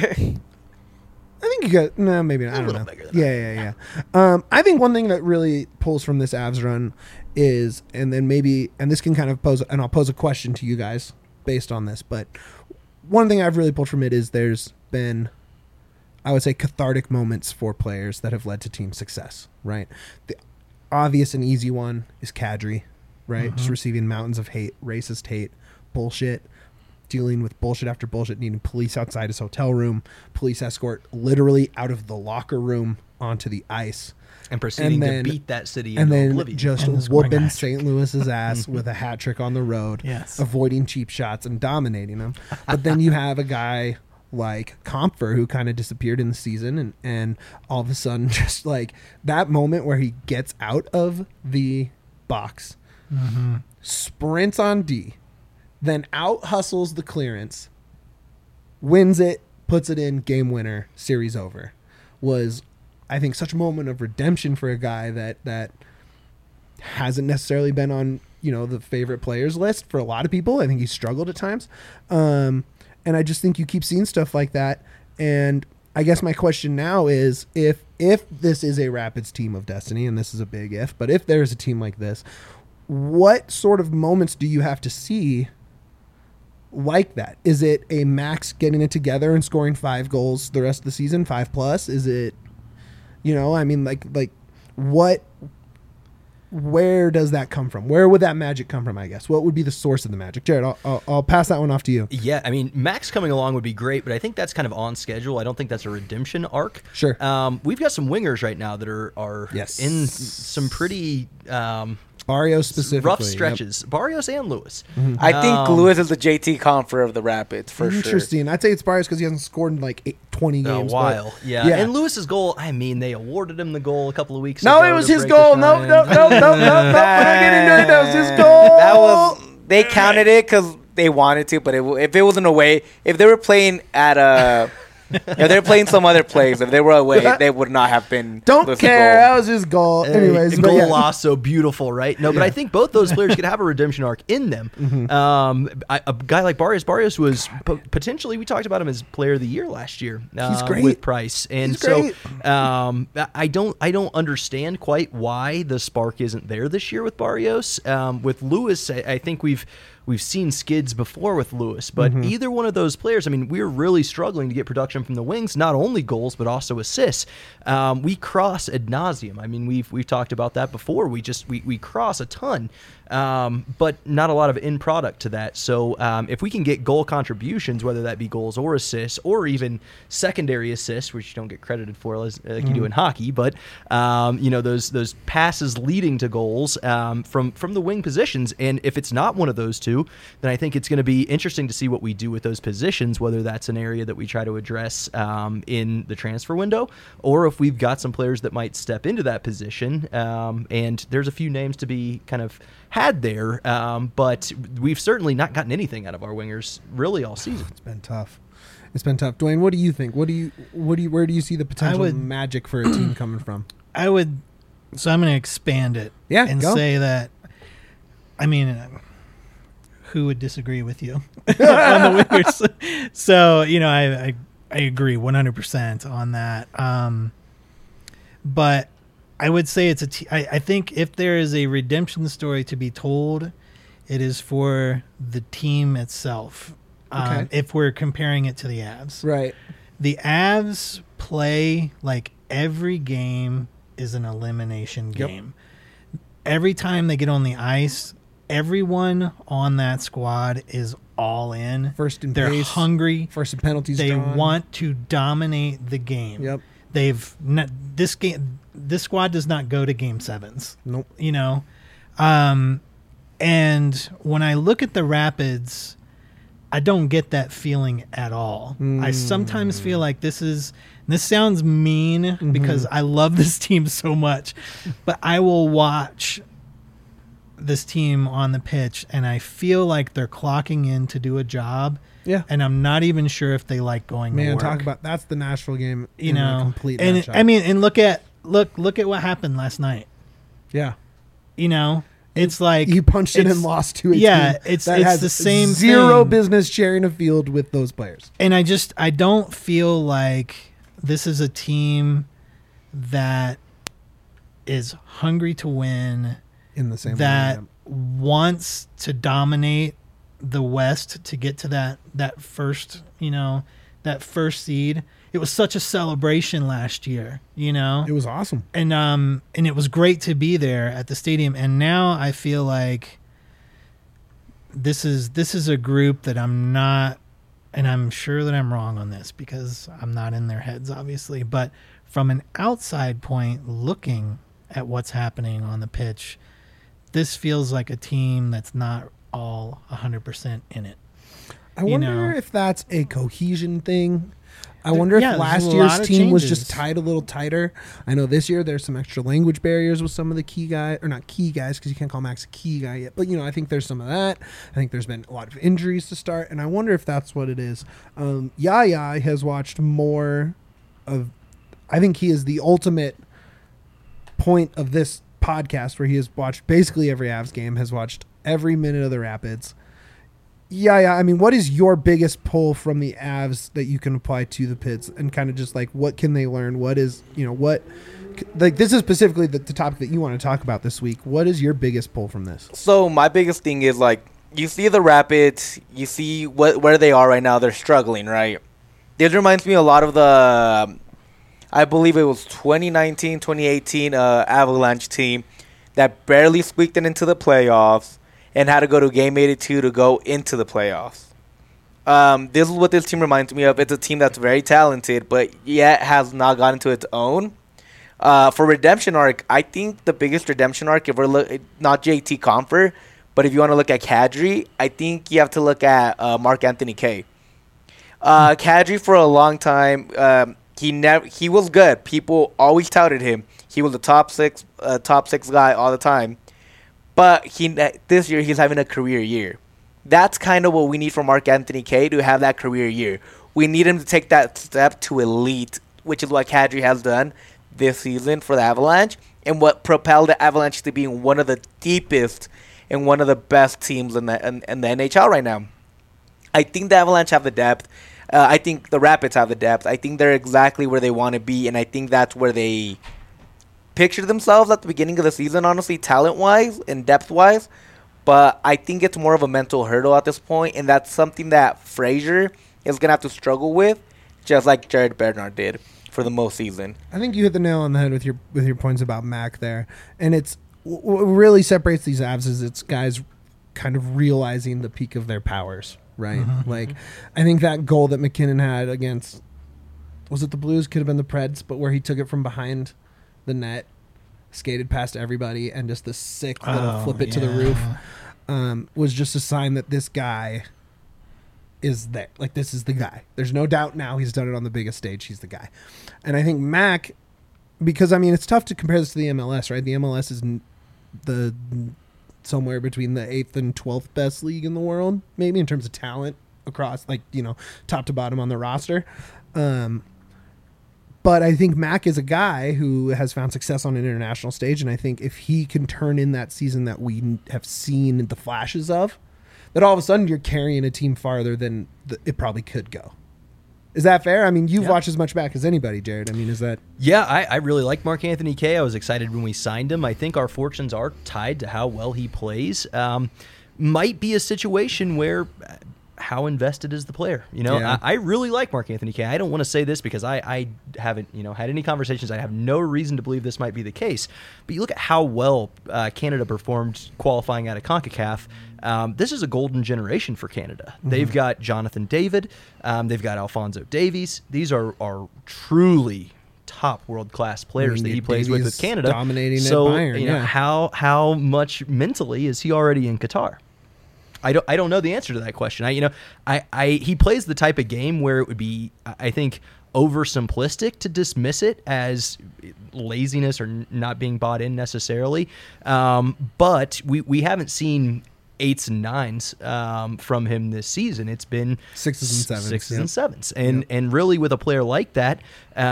I think you got maybe not. I don't little know. bigger than Yeah. I think one thing that really pulls from this Avs run is, and this can kind of pose, and I'll pose a question to you guys based on this, but one thing I've really pulled from it is there's been, I would say, cathartic moments for players that have led to team success, right? The obvious and easy one is Kadri, right? Just receiving mountains of hate, racist hate, bullshit, dealing with bullshit after bullshit, needing police outside his hotel room, police escort literally out of the locker room onto the ice. And proceeding then- to beat that city And into then oblivion. just And scoring a whooping hat St. Louis's ass with a hat trick on the road, Yes. avoiding cheap shots and dominating them. But then you have a guy like Compher who kind of disappeared in the season, and all of a sudden just like that moment where he gets out of the box, sprints on D, then out hustles the clearance, wins it, puts it in, game winner, series over, was, I think, such a moment of redemption for a guy that hasn't necessarily been on, the favorite players list for a lot of people. I think he's struggled at times. And I just think you keep seeing stuff like that. And I guess my question now is if this is a Rapids team of destiny, and this is a big if, but if there's a team like this, what sort of moments do you have to see like that? Is it a Max getting it together and scoring 5 goals the rest of the season, 5+? Is it, I mean, like what? Where does that come from? Where would that magic come from, I guess? What would be the source of the magic? Jared, I'll pass that one off to you. Yeah, I mean, Max coming along would be great, but I think that's kind of on schedule. I don't think that's a redemption arc. Sure. We've got some wingers right now that are Yes. in some pretty Barrios specifically. rough stretches. Barrios and Lewis. I think Lewis is the JT Confer of the Rapids for sure. Interesting. I'd say it's Barrios because he hasn't scored in like 20 A games. while, but- yeah. And Lewis's goal, I mean, they awarded him the goal a couple of weeks No, ago. it was to his break the goal. No. tie-in. We're not getting into it. That was his goal. That was they counted it because they wanted to, but if it wasn't away, if they were playing at if they're playing some other place, if they were away, they would not have been. Don't Lewis's care. goal. That was his goal. Anyways, a but goal yeah. lost, so beautiful, right? No, but I think both those players could have a redemption arc in them. A guy like Barrios was potentially, we talked about him as player of the year last year. He's great. With Price, and He's so great. I don't understand quite why the spark isn't there this year with Barrios. With Lewis, I think we've seen skids before with Lewis, but either one of those players, I mean, we're really struggling to get production from the wings, not only goals, but also assists. We cross ad nauseum. I mean, we've talked about that before. We cross a ton, but not a lot of end product to that. So if we can get goal contributions, whether that be goals or assists, or even secondary assists, which you don't get credited for like you do in hockey, but those passes leading to goals from the wing positions, and if it's not one of those two, then I think it's going to be interesting to see what we do with those positions, whether that's an area that we try to address in the transfer window, or if we've got some players that might step into that position. And there's a few names to be kind of had there, but we've certainly not gotten anything out of our wingers really all season. It's been tough. Dwayne, what do you think? Where do you see the potential magic for a team coming from? So I'm going to expand it. Yeah, and go. say that, I mean, who would disagree with you on the wingers? So, I agree 100% on that. But I would say I think if there is a redemption story to be told, it is for the team itself. Okay. If we're comparing it to the Avs. Right. The Avs play like every game is an elimination game. Every time they get on the ice, everyone on that squad is all in. First in They're pace, hungry. First in penalties. They drawn. want to dominate the game. Yep. This squad does not go to game sevens. Nope. And when I look at the Rapids, I don't get that feeling at all. I sometimes feel like this sounds mean because I love this team so much, but I will watch this team on the pitch and I feel like they're clocking in to do a job. Yeah. And I'm not even sure if they like going to work. Talk about that's the Nashville game. In a complete and nutshell. I mean, and look at what happened last night. Yeah. It's like you punched it and lost to a yeah, team it's that has the same zero thing. business sharing a field with those players. And I don't feel like this is a team that is hungry to win, In the same that way. wants to dominate the West to get to that first seed. It was such a celebration last year, It was awesome. and it was great to be there at the stadium. And now I feel like this is a group that I'm not, and I'm sure that I'm wrong on this because I'm not in their heads, obviously. But from an outside point, looking at what's happening on the pitch, this feels like a team that's not all 100% in it. I wonder if that's a cohesion thing. I wonder yeah, if there's last a year's lot of team was changes. just tied a little tighter. I know this year there's some extra language barriers with some of the key guys, or not key guys because you can't call Max a key guy yet. But, I think there's some of that. I think there's been a lot of injuries to start, and I wonder if that's what it is. Yaya has watched more of, I think he is the ultimate point of this podcast where he has watched basically every Avs game, has watched every minute of the Rapids. Yeah. I mean, what is your biggest pull from the Avs that you can apply to the Pits, and kind of just like what can they learn? What is this is specifically the topic that you want to talk about this week. What is your biggest pull from this? So my biggest thing is like you see the Rapids, you see where they are right now. They're struggling, right? This reminds me a lot of the, I believe it was 2019, 2018 Avalanche team that barely squeaked it into the playoffs and had to go to Game 82 to go into the playoffs. This is what this team reminds me of. It's a team that's very talented, but yet has not gotten to its own. For redemption arc, I think the biggest redemption arc, if we're not JT Compher, but if you want to look at Kadri, I think you have to look at Mark-Anthony Kaye. Kadri for a long time, he was good. People always touted him. He was a top six guy all the time. But this year he's having a career year. That's kind of what we need from Mark-Anthony Kaye to have that career year. We need him to take that step to elite, which is what Kadri has done this season for the Avalanche, and what propelled the Avalanche to being one of the deepest and one of the best teams in the NHL right now. I think the Avalanche have the depth. I think the Rapids have the depth. I think they're exactly where they want to be, and I think that's where they pictured themselves at the beginning of the season, honestly, talent-wise and depth-wise. But I think it's more of a mental hurdle at this point, and that's something that Fraser is going to have to struggle with, just like Jared Bernard did for the most season. I think you hit the nail on the head with your points about Mac there. And it's what really separates these Avs is it's guys kind of realizing the peak of their powers, right? Mm-hmm. Like, I think that goal that McKinnon had against, was it the Blues? Could have been the Preds, but where he took it from behind the net, skated past everybody, and just the sick little flip it to the roof was just a sign that this guy is there. Like, this is the guy. There's no doubt now he's done it on the biggest stage. He's the guy. And I think Mac, because, I mean, it's tough to compare this to the MLS, right? The MLS is the somewhere between the 8th and 12th best league in the world, maybe in terms of talent across, like, you know, top to bottom on the roster. But I think Mac is a guy who has found success on an international stage, and I think if he can turn in that season that we have seen the flashes of, that all of a sudden you're carrying a team farther than it probably could go. Is that fair? I mean, you've watched as much back as anybody, Jared. I mean, is that... Yeah, I really like Mark-Anthony Kaye. I was excited when we signed him. I think our fortunes are tied to how well he plays. Might be a situation where... how invested is the player? You know, Yeah. I really like Mark-Anthony Kaye. I don't want to say this because I haven't, had any conversations. I have no reason to believe this might be the case. But you look at how well Canada performed qualifying out of CONCACAF. This is a golden generation for Canada. Mm-hmm. They've got Jonathan David. They've got Alphonso Davies. These are truly top world-class players that he plays with Canada. Dominating so, at Bayern, how much mentally is he already in Qatar? I don't know the answer to that question. He plays the type of game where it would be, I think, oversimplistic to dismiss it as laziness or not being bought in necessarily. But we haven't seen 8s and 9s from him this season. It's been 6s and 7s. 6s and 7s. And really with a player like that,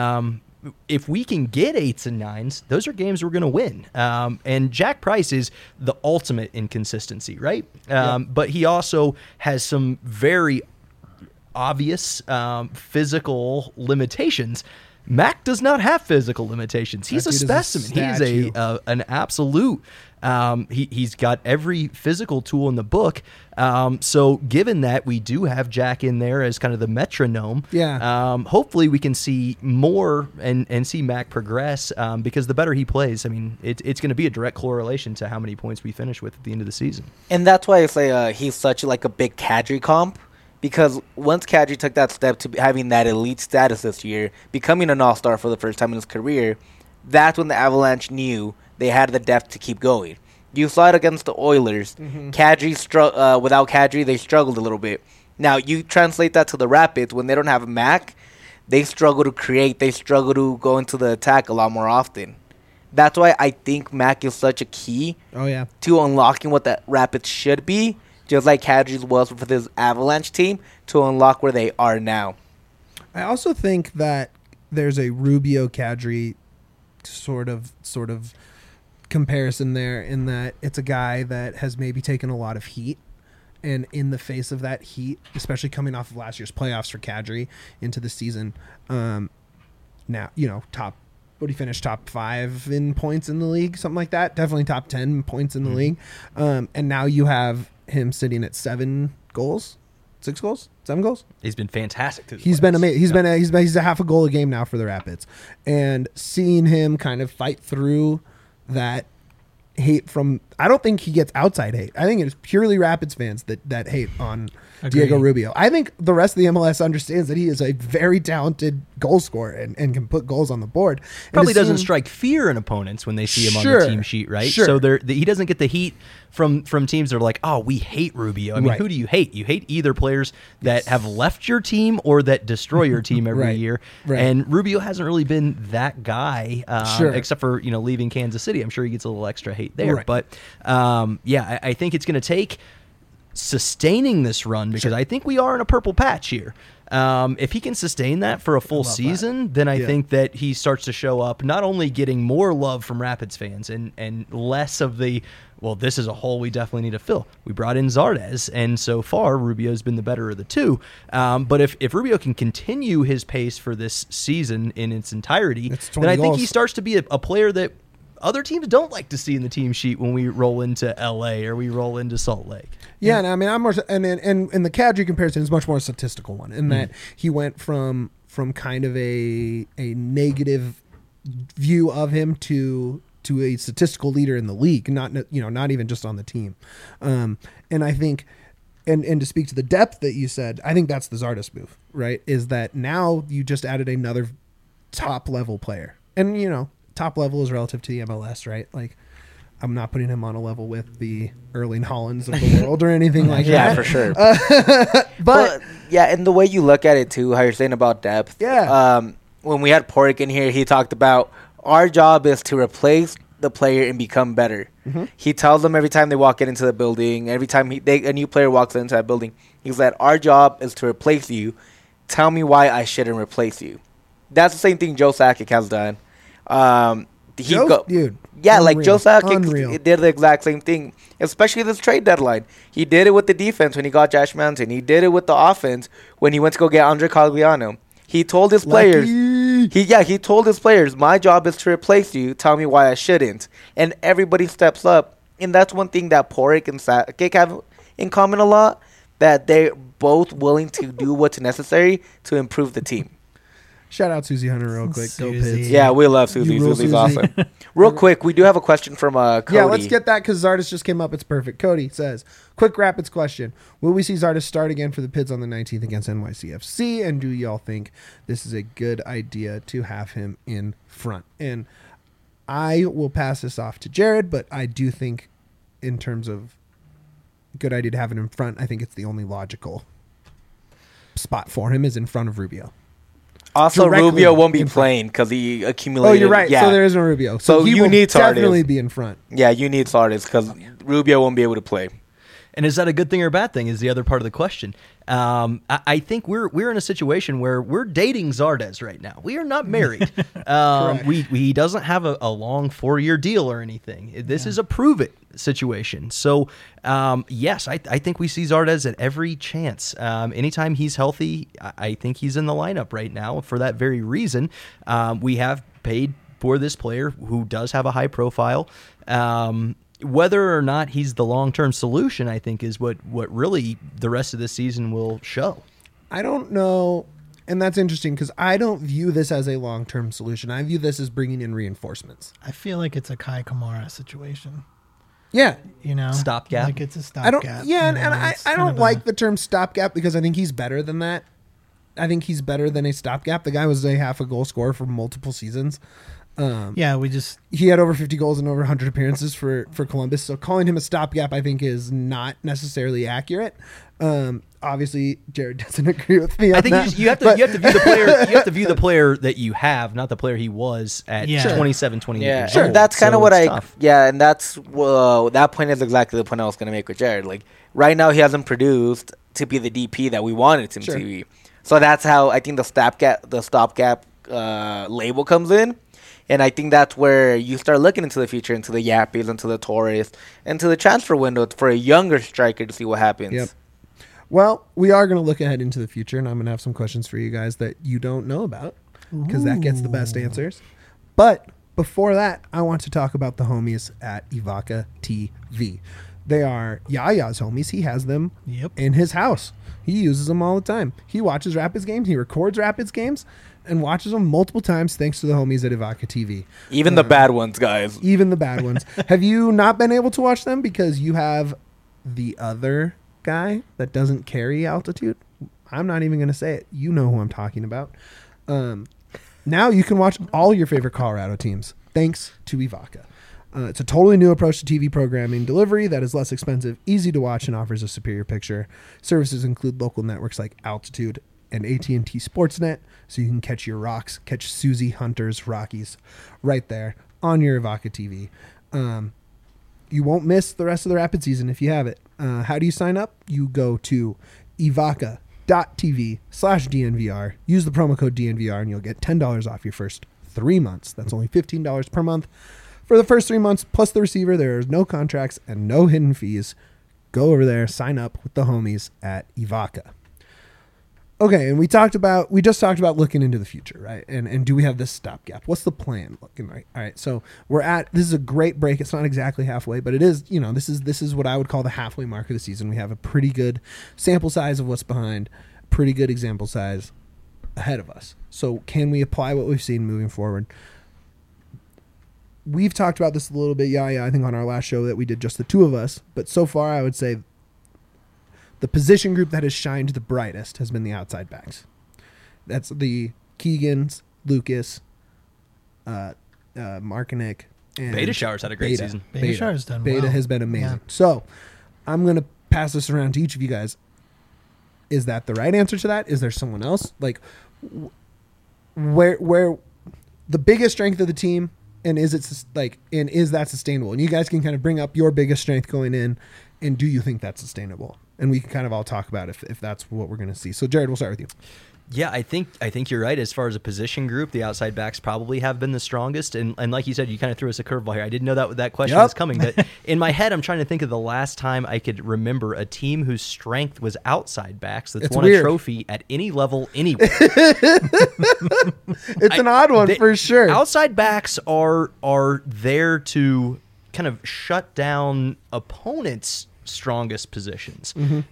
if we can get 8s and 9s, those are games we're going to win. And Jack Price is the ultimate inconsistency, right? But he also has some very obvious physical limitations. Mac does not have physical limitations. He's a specimen. He is an absolute. He's got every physical tool in the book. So given that we do have Jack in there as kind of the metronome, hopefully we can see more and see Mac progress because the better he plays, I mean, it's going to be a direct correlation to how many points we finish with at the end of the season. And that's why I say he's such like a big Kadri comp. Because once Kadri took that step to having that elite status this year, becoming an all-star for the first time in his career, that's when the Avalanche knew they had the depth to keep going. You saw it against the Oilers. Mm-hmm. Without Kadri, they struggled a little bit. Now, you translate that to the Rapids. When they don't have Mac, they struggle to create. They struggle to go into the attack a lot more often. That's why I think Mac is such a key to unlocking what the Rapids should be, just like Kadri's was for this Avalanche team, to unlock where they are now. I also think that there's a Rubio Kadri sort of comparison there, in that it's a guy that has maybe taken a lot of heat, and in the face of that heat, especially coming off of last year's playoffs for Kadri into the season, now, what he finished top 5 in points in the league, something like that. Definitely top 10 points in the league. And now you have him sitting at 7 goals, 6 goals, 7 goals. He's been fantastic. He's been amazing. He's a half a goal a game now for the Rapids, and seeing him kind of fight through that hate from, I don't think he gets outside hate. I think it's purely Rapids fans that hate on Diego Rubio. I think the rest of the MLS understands that he is a very talented goal scorer and can put goals on the board. Probably doesn't strike fear in opponents when they see him on the team sheet, right? Sure. So he doesn't get the heat from teams that are like, oh, we hate Rubio. I mean, who do you hate? You hate either players that have left your team or that destroy your team every year. Right. And Rubio hasn't really been that guy, except for leaving Kansas City. I'm sure he gets a little extra hate there. Right. But I think it's going to take sustaining this run because I think we are in a purple patch here. If he can sustain that for a full season, then I think that he starts to show up, not only getting more love from Rapids fans and less of the, well, this is a hole we definitely need to fill. We brought in Zardes, and so far Rubio's been the better of the two. But if Rubio can continue his pace for this season in its entirety, then I think he starts to be a player that other teams don't like to see in the team sheet when we roll into LA or we roll into Salt Lake. Yeah, and I mean, I'm more, and the Kadri comparison is much more a statistical one in that he went from kind of a negative view of him to a statistical leader in the league, not even just on the team. And I think, and to speak to the depth that you said, I think that's the Zardes move, right? Is that now you just added another top level player, and top level is relative to the MLS, right? Like, I'm not putting him on a level with the Erling Haalands of the world or anything like that. Yeah, for sure. But yeah, and the way you look at it too, how you're saying about depth. Yeah. When we had Porrick in here, he talked about our job is to replace the player and become better. Mm-hmm. He tells them every time they walk into the building, every time a new player walks into that building, he's like, our job is to replace you. Tell me why I shouldn't replace you. That's the same thing Joe Sakic has done. Dude. Yeah, unreal. Like Joe Sakic did the exact same thing, especially this trade deadline. He did it with the defense when he got Josh Manson. He did it with the offense when he went to go get Andre Cogliano. He told his players, he told his players, my job is to replace you. Tell me why I shouldn't. And everybody steps up. And that's one thing that Porrick and Sakic have in common a lot, that they're both willing to do what's necessary to improve the team. Shout out Susie Hunter real quick. Go Pids. Yeah, we love Susie. Susie's awesome. Real quick, we do have a question from Cody. Yeah, let's get that because Zardes just came up. It's perfect. Cody says, quick Rapids question. Will we see Zardes start again for the Pids on the 19th against NYCFC? And do y'all think this is a good idea to have him in front? And I will pass this off to Jared, but I do think in terms of good idea to have him in front, I think it's the only logical spot for him is in front of Rubio. Also, Rubio won't be playing because he accumulated. Oh, you're right. Yeah. So there is no Rubio. So he you need Zardes. Definitely be in front. Yeah, you need Zardes because Rubio won't be able to play. And is that a good thing or a bad thing is the other part of the question. I think we're in a situation where we're dating Zardes right now. We are not married. He doesn't have a long 4-year deal or anything. This is a prove it situation. So, yes, I think we see Zardes at every chance. Anytime he's healthy, I think he's in the lineup right now for that very reason. We have paid for this player who does have a high profile. Whether or not he's the long-term solution, I think, is what really the rest of the season will show. I don't know, and that's interesting because I don't view this as a long-term solution. I view this as bringing in reinforcements. I feel like it's a Kai Kamara situation. Yeah. Stopgap. Like it's a stopgap. And I don't like the term stopgap because I think he's better than that. I think he's better than a stopgap. The guy was a half a goal scorer for multiple seasons. He had over 50 goals and over 100 appearances for Columbus. So calling him a stopgap, I think, is not necessarily accurate. Obviously, Jared doesn't agree with me. I think you have to view the player. You have to view the player that you have, not the player he was at 27, 28 years old. That's kind of what tough. And that's that point is exactly the point I was going to make with Jared. Like right now, he hasn't produced to be the DP that we wanted him to be. So that's how I think the stopgap label comes in. And I think that's where you start looking into the future, into the Yappies, into the Torres, into the transfer window for a younger striker to see what happens. Yep. Well, we are going to look ahead into the future, and I'm going to have some questions for you guys that you don't know about because that gets the best answers. But before that, I want to talk about the homies at Evoca TV. They are Yaya's homies. He has them Yep. in his house. He uses them all the time. He watches Rapids games. He records Rapids games and watches them multiple times thanks to the homies at Ivaca TV. Even the bad ones, guys. Even the bad ones. Have you not been able to watch them because you have the other guy that doesn't carry altitude? I'm not even going to say it. You know who I'm talking about. Now you can watch all your favorite Colorado teams thanks to Ivaca. It's a totally new approach to TV programming delivery that is less expensive, easy to watch, and offers a superior picture. Services include local networks like Altitude and AT&T Sportsnet, so you can catch your Rocks, catch Susie Hunter's Rockies right there on your Ivaca TV. You won't miss the rest of the Rapid season if you have it. How do you sign up? You go to ivaca.tv/DNVR. Use the promo code DNVR and you'll get $10 off your first 3 months. That's only $15 per month. For the first 3 months, plus the receiver, there is no contracts and no hidden fees. Go over there, sign up with the homies at Ivaca. Okay, and we just talked about looking into the future, right? And do we have this stopgap? What's the plan looking like? All right, so this is a great break. It's not exactly halfway, but it is, this is what I would call the halfway mark of the season. We have a pretty good sample size of what's behind, pretty good example size ahead of us. So can we apply what we've seen moving forward? We've talked about this a little bit, I think on our last show that we did just the two of us, but so far I would say the position group that has shined the brightest has been the outside backs. That's the Keegans, Lucas, Markinek, and Beta Showers had a great season. Beta Shower's done Beta well. has been amazing. Yeah. So I'm going to pass this around to each of you guys. Is that the right answer to that? Is there someone else? Like where the biggest strength of the team, and is that sustainable? And you guys can kind of bring up your biggest strength going in, and do you think that's sustainable? And we can kind of all talk about if that's what we're going to see. So Jared, we'll start with you. Yeah, I think you're right. As far as a position group, the outside backs probably have been the strongest. And like you said, you kind of threw us a curveball here. I didn't know that question was coming. But in my head, I'm trying to think of the last time I could remember a team whose strength was outside backs that's won a trophy at any level anywhere. It's an odd one for sure. Outside backs are there to kind of shut down opponents' strongest positions.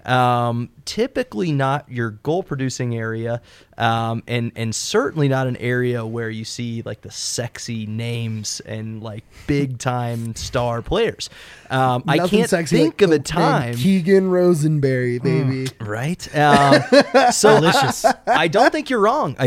Typically not your goal producing area, and certainly not an area where you see like the sexy names and like big time star players. I can't think of a time. Keegan Rosenberry, baby. Right. So delicious. I don't think you're wrong.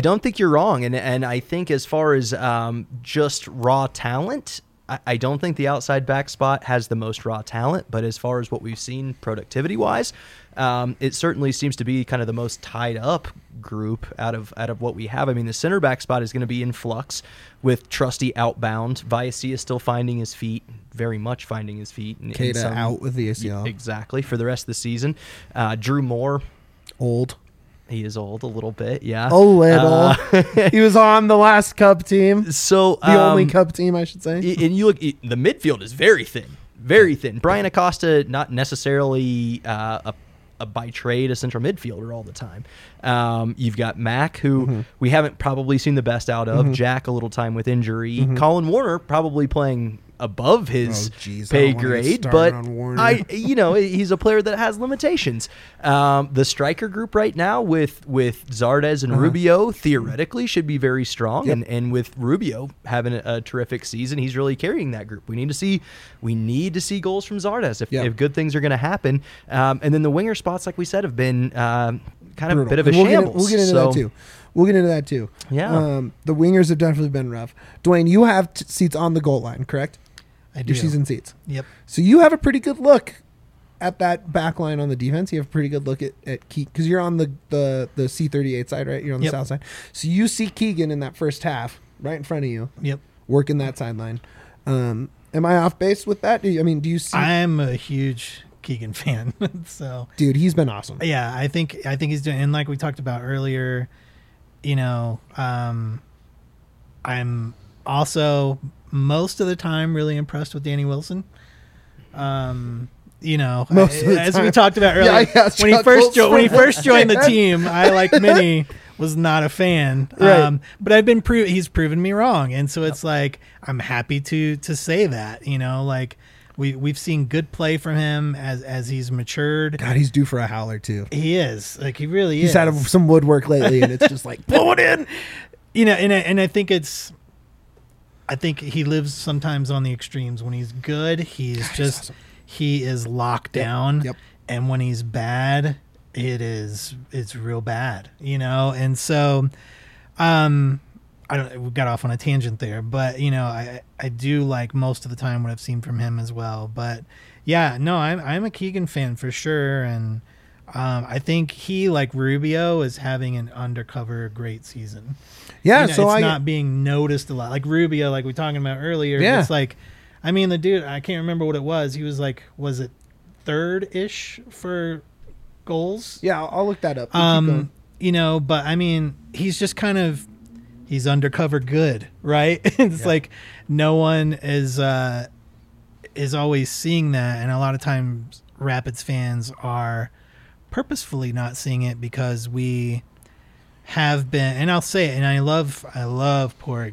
And I think as far as just raw talent, I don't think the outside back spot has the most raw talent, but as far as what we've seen productivity-wise, it certainly seems to be kind of the most tied up group out of what we have. I mean, the center back spot is going to be in flux with Trusty outbound. Viacia is still finding his feet, very much finding his feet. Keita out with the ACL. Exactly, for the rest of the season. Drew Moore. Old. He is old a little bit, yeah. A little. He was on the last Cup team. So the only Cup team, I should say. And you look, the midfield is very thin, very thin. Brian Acosta, not necessarily by trade a central midfielder all the time. You've got Mac, who we haven't probably seen the best out of. Jack, a little time with injury. Colin Warner probably playing above his pay grade, but he's a player that has limitations. The striker group right now with Zardes and Rubio theoretically should be very strong, and with Rubio having a terrific season, he's really carrying that group. We need to see goals from Zardes if good things are going to happen. And then the winger spots, like we said, have been kind of brutal. A bit of a shambles. We'll get into that too. Yeah. The wingers have definitely been rough. Dwayne, you have seats on the goal line, correct? I do. Your season seats. Yep. So you have a pretty good look at that back line on the defense. You have a pretty good look at Keegan, because you're on the C38 side, right? You're on the south side. So you see Keegan in that first half right in front of you. Yep. Working that sideline. Am I off base with that? Do you see? I'm a huge Keegan fan. So dude, he's been awesome. Yeah, I think he's doing, and like we talked about earlier, I'm also most of the time really impressed with Danny Wilson. We talked about earlier, when he first joined the team, I, like many, was not a fan. Right. But he's proven me wrong, and so it's like I'm happy to say that. We've seen good play from him as he's matured. God, he's due for a howler too. He is, like, he really He's is. had some woodwork lately, and it's just like blow it in. You know, and I think he lives sometimes on the extremes. When he's good, he's just awesome. he is locked down. Yep. And when he's bad, it's real bad, you know? And so we got off on a tangent there, but you know, I do like most of the time what I've seen from him as well. But yeah, no, I'm a Keegan fan for sure. And I think he, like Rubio, is having an undercover great season. Yeah, You know, so it's not being noticed a lot. Like Rubio, like we were talking about earlier. Yeah. It's like, I mean, the dude, I can't remember what it was. He was like, was it third-ish for goals? Yeah, I'll look that up. Keep going. You know, but I mean, he's just kind of, he's undercover good, right? It's like no one is always seeing that, and a lot of times Rapids fans are purposefully not seeing it because we have been, and I'll say it, and I love Porig.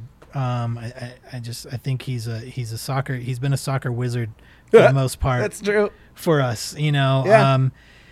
I think he's been a soccer wizard for the most part. That's true. For us, you know. Yeah.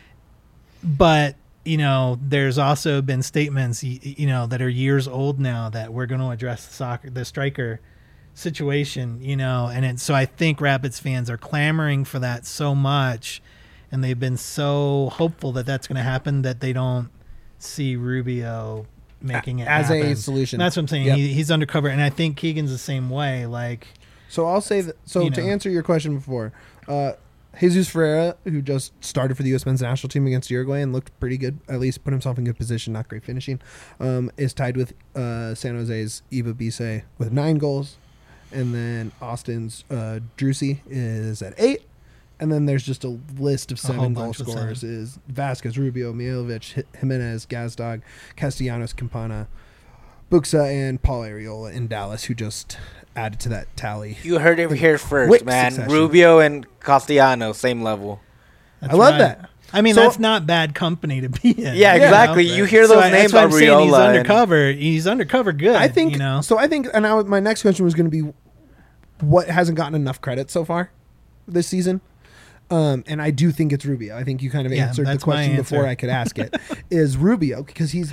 But you know, there's also been statements, you know, that are years old now that we're going to address the striker situation, you know, and so I think Rapids fans are clamoring for that so much, and they've been so hopeful that that's going to happen that they don't see Rubio making it as happen. a solution. That's what I'm saying. Yep. He's undercover, and I think Keegan's the same way. Like, So I'll say that. So You to know. answer your question before, Jesus Ferreira, who just started for the U.S. men's national team against Uruguay and looked pretty good, at least put himself in good position, not great finishing, is tied with San Jose's Eva Bise with 9 goals. And then Austin's Drusy is at 8. And then there's just a list of whole 7 goal bunch with scorers: 7. is Vasquez, Rubio, Milovic, Jimenez, Gazdag, Castellanos, Campana, Buxa, and Paul Ariola in Dallas, who just added to that tally. You heard it here first, Quick man. succession. Rubio and Castellanos, same level. that's I love right. that. I mean, So- that's not bad company to be in. Yeah, exactly. know? You hear So those that's names, why I'm saying he's Ariola and- undercover. He's undercover good. I think you know. so. I think, and my next question was going to be, what hasn't gotten enough credit so far this season? And I do think it's Rubio. I think you kind of Yeah, answered the that's my question before answer. I could ask it. Is Rubio, because he's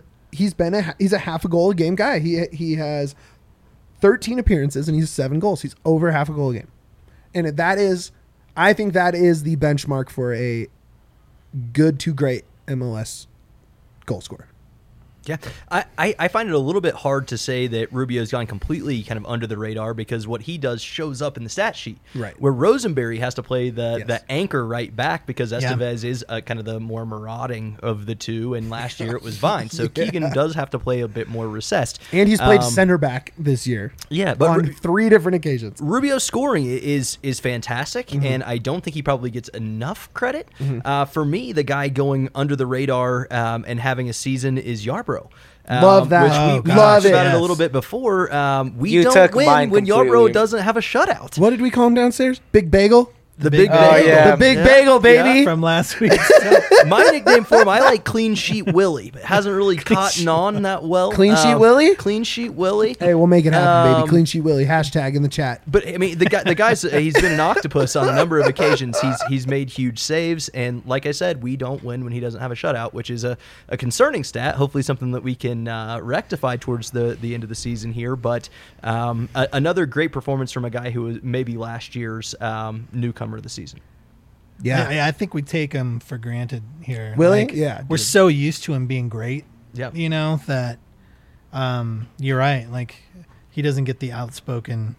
a half a goal a game guy. He has 13 appearances and he's 7 goals. He's over half a goal a game, and I think that is the benchmark for a good to great MLS goal scorer. Yeah, I find it a little bit hard to say that Rubio's gone completely kind of under the radar because what he does shows up in the stat sheet. Right. Where Rosenberry has to play Yes. the anchor right back because Yeah. Estevez is kind of the more marauding of the two, and last year it was Vine. So Keegan does have to play a bit more recessed. And he's played center back this year. Yeah, but on 3 different occasions. Rubio's scoring is fantastic, Mm-hmm. and I don't think he probably gets enough credit. For me, the guy going under the radar and having a season is Yarbrough. Love that. Which Oh, we gosh, talked about it yes. a little bit before. We You don't took win mine when completely. Yarbrough doesn't have a shutout. What did we call him downstairs? Big Bagel? The big big- bagel. Oh, yeah. The big bagel, baby. from last week. My nickname for him, I like Clean Sheet Willie, but hasn't really caught on that well. Clean Sheet Willie? Clean Sheet Willie. Hey, we'll make it happen, baby. Um, Clean sheet Willie. Hashtag in the chat. But I mean, the guy's he's been an octopus on a number of occasions. He's made huge saves, and like I said, we don't win when he doesn't have a shutout, which is a concerning stat. Hopefully, something that we can rectify towards the end of the season here. But another great performance from a guy who was maybe last year's newcomer of the season. Yeah. I think we take him for granted here. Willie? Like, Yeah, we're dude. so used to him being great. Yep. You know that. You're right. Like, he doesn't get the outspoken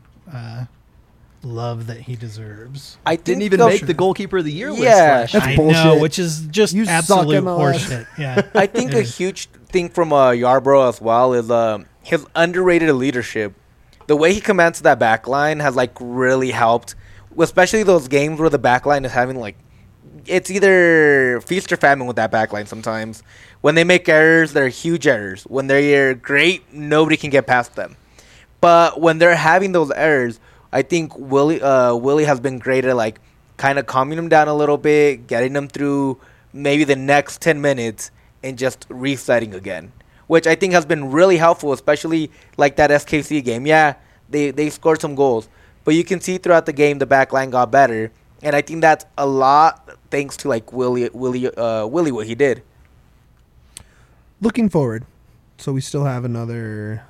love that he deserves. I think Didn't even they'll- make the goalkeeper of the year list Yeah. last year. That's I bullshit. know, which is just You suck, absolute MLS. horseshit. Yeah. I think It a is. huge thing from Yarbrough as well is his underrated leadership. The way he commands that back line has like really helped, especially those games where the back line is having like, it's either feast or famine with that back line sometimes. When they make errors, they're huge errors. When they're great, nobody can get past them. But when they're having those errors, I think Willie has been great at like kind of calming them down a little bit, getting them through maybe the next 10 minutes and just resetting again, which I think has been really helpful, especially like that SKC game. Yeah, they scored some goals, but you can see throughout the game the back line got better, and I think that's a lot thanks to like Willie what he did. Looking forward, so we still have another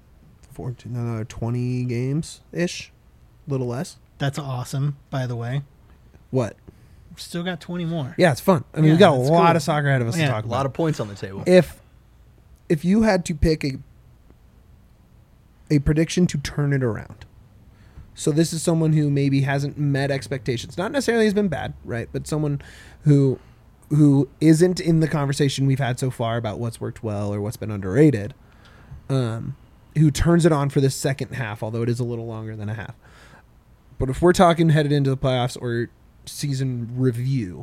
20 games ish, a little less. That's awesome, by the way. What? Still got 20 more. Yeah, it's fun. I mean, Yeah, we got a that's lot cool. of soccer ahead of us to Yeah. talk A about. lot of points on the table. If you had to pick a prediction to turn it around, so this is someone who maybe hasn't met expectations. Not necessarily has been bad, right? But someone who isn't in the conversation we've had so far about what's worked well or what's been underrated. Who turns it on for the second half, although it is a little longer than a half. But if we're talking headed into the playoffs or season review,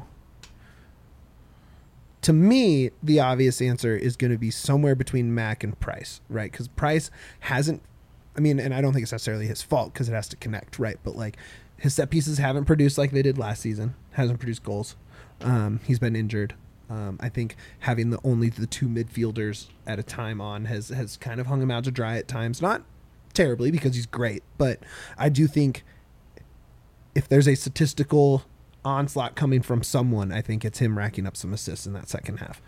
to me, the obvious answer is going to be somewhere between Mac and Price, right? Because Price hasn't, I mean, and I don't think it's necessarily his fault because it has to connect, right? But like his set pieces haven't produced like they did last season, hasn't produced goals. He's been injured. I think having only the two midfielders at a time on has kind of hung him out to dry at times. Not terribly because he's great, but I do think if there's a statistical onslaught coming from someone, I think it's him racking up some assists in that second half.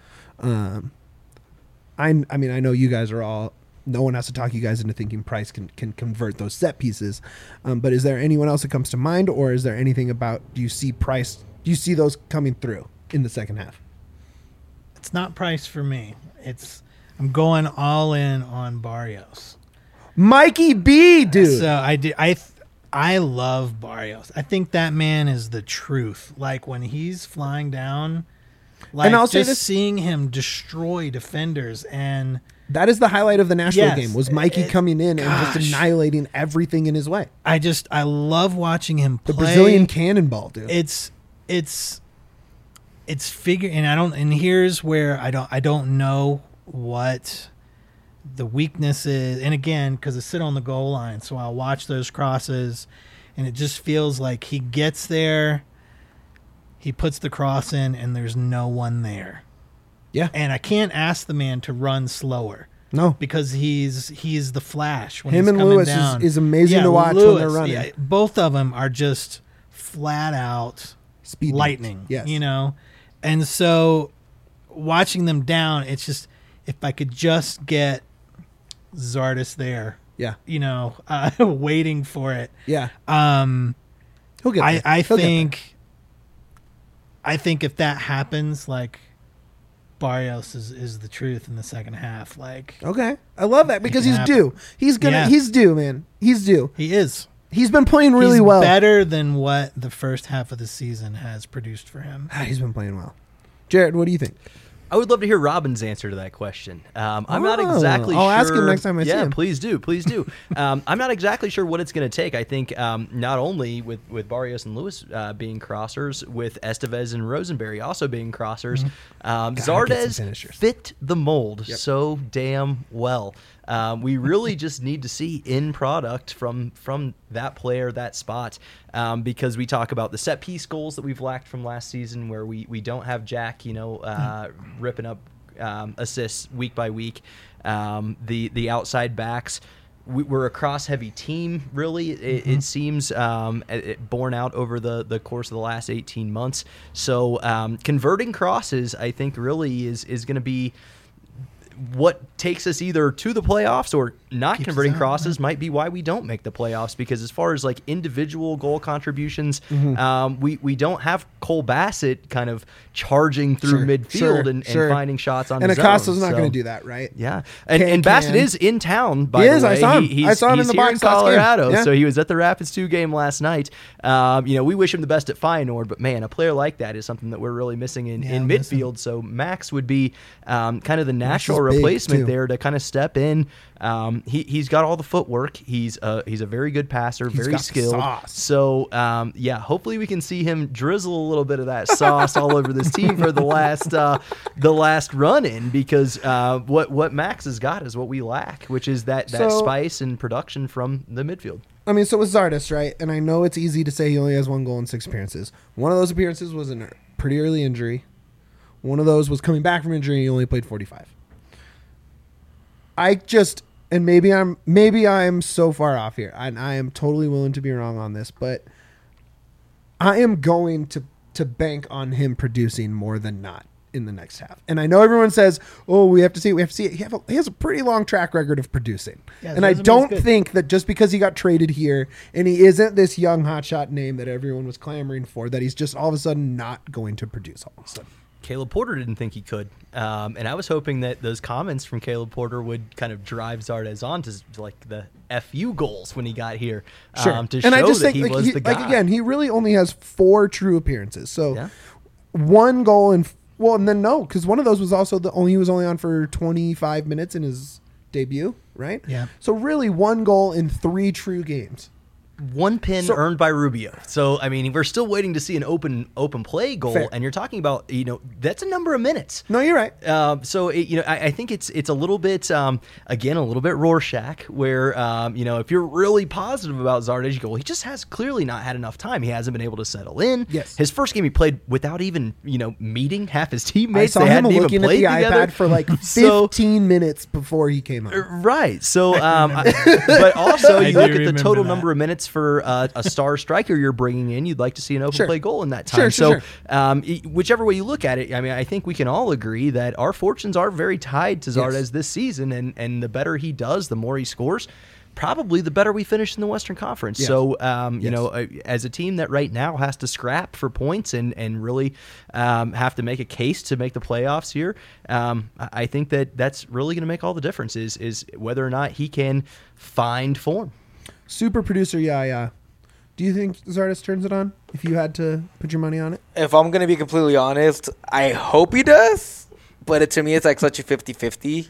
I mean, I know you guys are all. No one has to talk you guys into thinking Price can convert those set pieces. But is there anyone else that comes to mind, or is there anything about? Do you see Price? Do you see those coming through in the second half? It's not Price for me. I'm going all in on Barrios. Mikey B, dude. So I love Barrios. I think that man is the truth. Like when he's flying down, like And I'll say just this- seeing him destroy defenders, and That is the highlight of the Nashville Yes. game. Was Mikey coming in and Gosh. just annihilating everything in his way? I love watching him The play. Brazilian cannonball, dude. It's figure, and here's where I don't know what the weakness is. And again, because I sit on the goal line, so I'll watch those crosses, and it just feels like he gets there, he puts the cross in, and there's no one there. Yeah. And I can't ask the man to run slower No. because he's the Flash when Him he's and coming Lewis down. is amazing Yeah, to watch when they're Lewis, running. yeah, both of them are just flat out Speed lightning. Yes. You know? And so watching them down, it's just, if I could just get Zardes there, Yeah. you know, waiting for it. Yeah. He'll get there. I He'll get think if that happens, like Barrios is the truth in the second half. Like Okay. I love that because can he's happen. due. He's due, man. He's due. he is. He's been playing really He's well. better than what the first half of the season has produced for him. He's been playing well. Jared, what do you think? I would love to hear Robin's answer to that question. I'm not exactly I'll sure. ask him next time I see yeah, him. please do. Please do. I'm not exactly sure what it's going to take. I think not only with Barrios and Lewis being crossers, with Estevez and Rosenberry also being crossers, get some Zardes finishers. fit the mold so damn well. We really just need to see in product from that player, that spot, because we talk about the set piece goals that we've lacked from last season, where we don't have Jack, ripping up assists week by week. The outside backs. We're a cross-heavy team, really. It seems borne out over the course of the last 18 months. So converting crosses, I think, really is going to be what takes us either to the playoffs or not. Keeps us Converting out, crosses might be why we don't make the playoffs, because as far as like individual goal contributions, we don't have Cole Bassett kind of charging through midfield and finding shots on and his Acosta's own. not So, going to do that, right? yeah, and Bassett is in town. By He the is. I way, saw him. He's, I saw him in he's the here box last game. Colorado, Yeah. so he was at the Rapids 2 game last night. We wish him the best at Feyenoord, but man, a player like that is something that we're really missing in midfield. So Max would be kind of the natural is big, replacement too. there to kind of step in. He's got all the footwork. He's a very good passer, very got the skilled. sauce. So hopefully we can see him drizzle a little bit of that sauce all over this team for the last run in, because what Max has got is what we lack, which is that So- spice and production from the midfield. I mean, so with Zardes, right? And I know it's easy to say he only has 1 goal in 6 appearances. One of those appearances was a pretty early injury. One of those was coming back from injury and he only played 45. and maybe I'm so far off here, and I am totally willing to be wrong on this, but I am going to bank on him producing more than not in the next half. And I know everyone says, "Oh, we have to see it." He has a pretty long track record of producing, Yeah, and I resume's don't good. think that just because he got traded here and he isn't this young hotshot name that everyone was clamoring for, that he's just all of a sudden not going to produce all of a sudden. Caleb Porter didn't think he could, and I was hoping that those comments from Caleb Porter would kind of drive Zardes on to like the FU goals when he got here, to show And I just that think he was the guy. like again, he really only has 4 true appearances. So Yeah. 1 goal and then no, because one of those was also he was only on for 25 minutes in his debut, right? Yeah. So really 1 goal in 3 true games. 1 pin So- earned by Rubio. So I mean, we're still waiting to see an open play goal, Fair. and you're talking about that's a number of minutes. No, you're right. So I think it's a little bit again a little bit Rorschach, where if you're really positive about Zardes, you go, well, he just has clearly not had enough time. He hasn't been able to settle in. Yes. His first game he played without even meeting half his I teammates. saw They him hadn't even looking at played the together. iPad for like 15 So- minutes before he came on. Right. So, but also I you do look at the remember total that. number of minutes for a star striker you're bringing in. You'd like to see an open Sure. play goal in that time. Sure. Whichever way you look at it, I mean, I think we can all agree that our fortunes are very tied to Zardes Yes. this season, and the better he does, the more he scores. Probably the better we finish in the Western Conference. Yeah. So, Yes. as a team that right now has to scrap for points and really have to make a case to make the playoffs here, I think that's really going to make all the difference is whether or not he can find form. Super producer Yaya. Do you think Zardes turns it on if you had to put your money on it? If I'm going to be completely honest, I hope he does. But to me, it's like such a 50-50.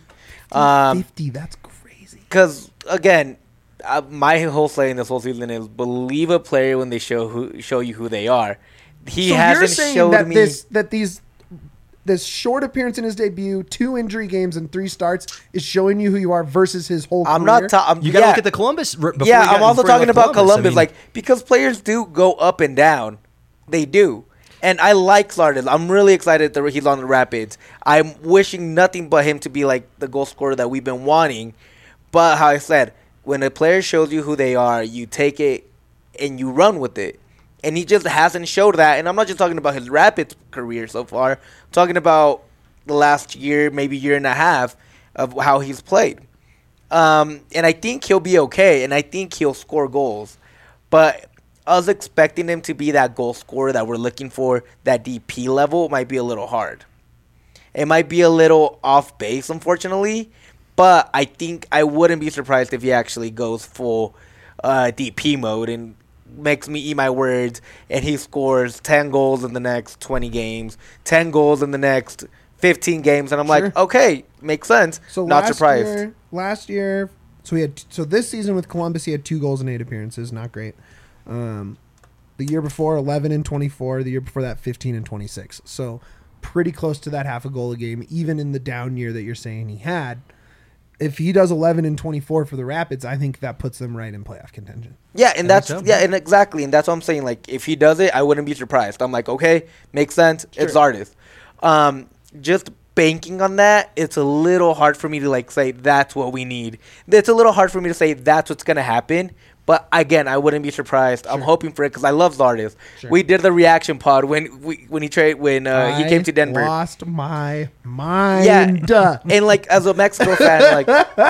50, that's crazy. Because, again, my whole saying this whole season is believe a player when they show you who they are. He So hasn't you're saying showed that me... this short appearance in his debut, 2 injury games and 3 starts is showing you who you are versus his whole I'm career? not... You got to look at the Columbus. I'm also talking about Columbus. Because players do go up and down. They do. And I like Zardes. I'm really excited that he's on the Rapids. I'm wishing nothing but him to be like the goal scorer that we've been wanting. But how I said, when a player shows you who they are, you take it and you run with it. And he just hasn't showed that. And I'm not just talking about his Rapids career so far. I'm talking about the last year, maybe year and a half of how he's played. And I think he'll be okay. And I think he'll score goals. But us expecting him to be that goal scorer that we're looking for, that DP level, might be a little hard. It might be a little off base, unfortunately. But I think I wouldn't be surprised if he actually goes full DP mode and makes me eat my words, and he scores 10 goals in the next 20 games, 10 goals in the next 15 games, and I'm Sure. like, okay, makes sense. So Not surprised. Last year, so this season with Columbus, he had 2 goals and 8 appearances. Not great. The year before, 11 and 24. The year before that, 15 and 26. So pretty close to that half a goal a game, even in the down year that you're saying he had. If he does 11 and 24 for the Rapids, I think that puts them right in playoff contention. Yeah, and that's so. and exactly, and that's what I'm saying. Like, if he does it, I wouldn't be surprised. I'm like, okay, makes sense. It's Zardes. Just banking on that, it's a little hard for me to like say that's what we need. It's a little hard for me to say that's what's gonna happen. But again, I wouldn't be surprised. I'm hoping for it because I love Zardes. Sure. We did the reaction pod when he came to Denver. Lost my mind. Yeah, and like as a Mexico fan,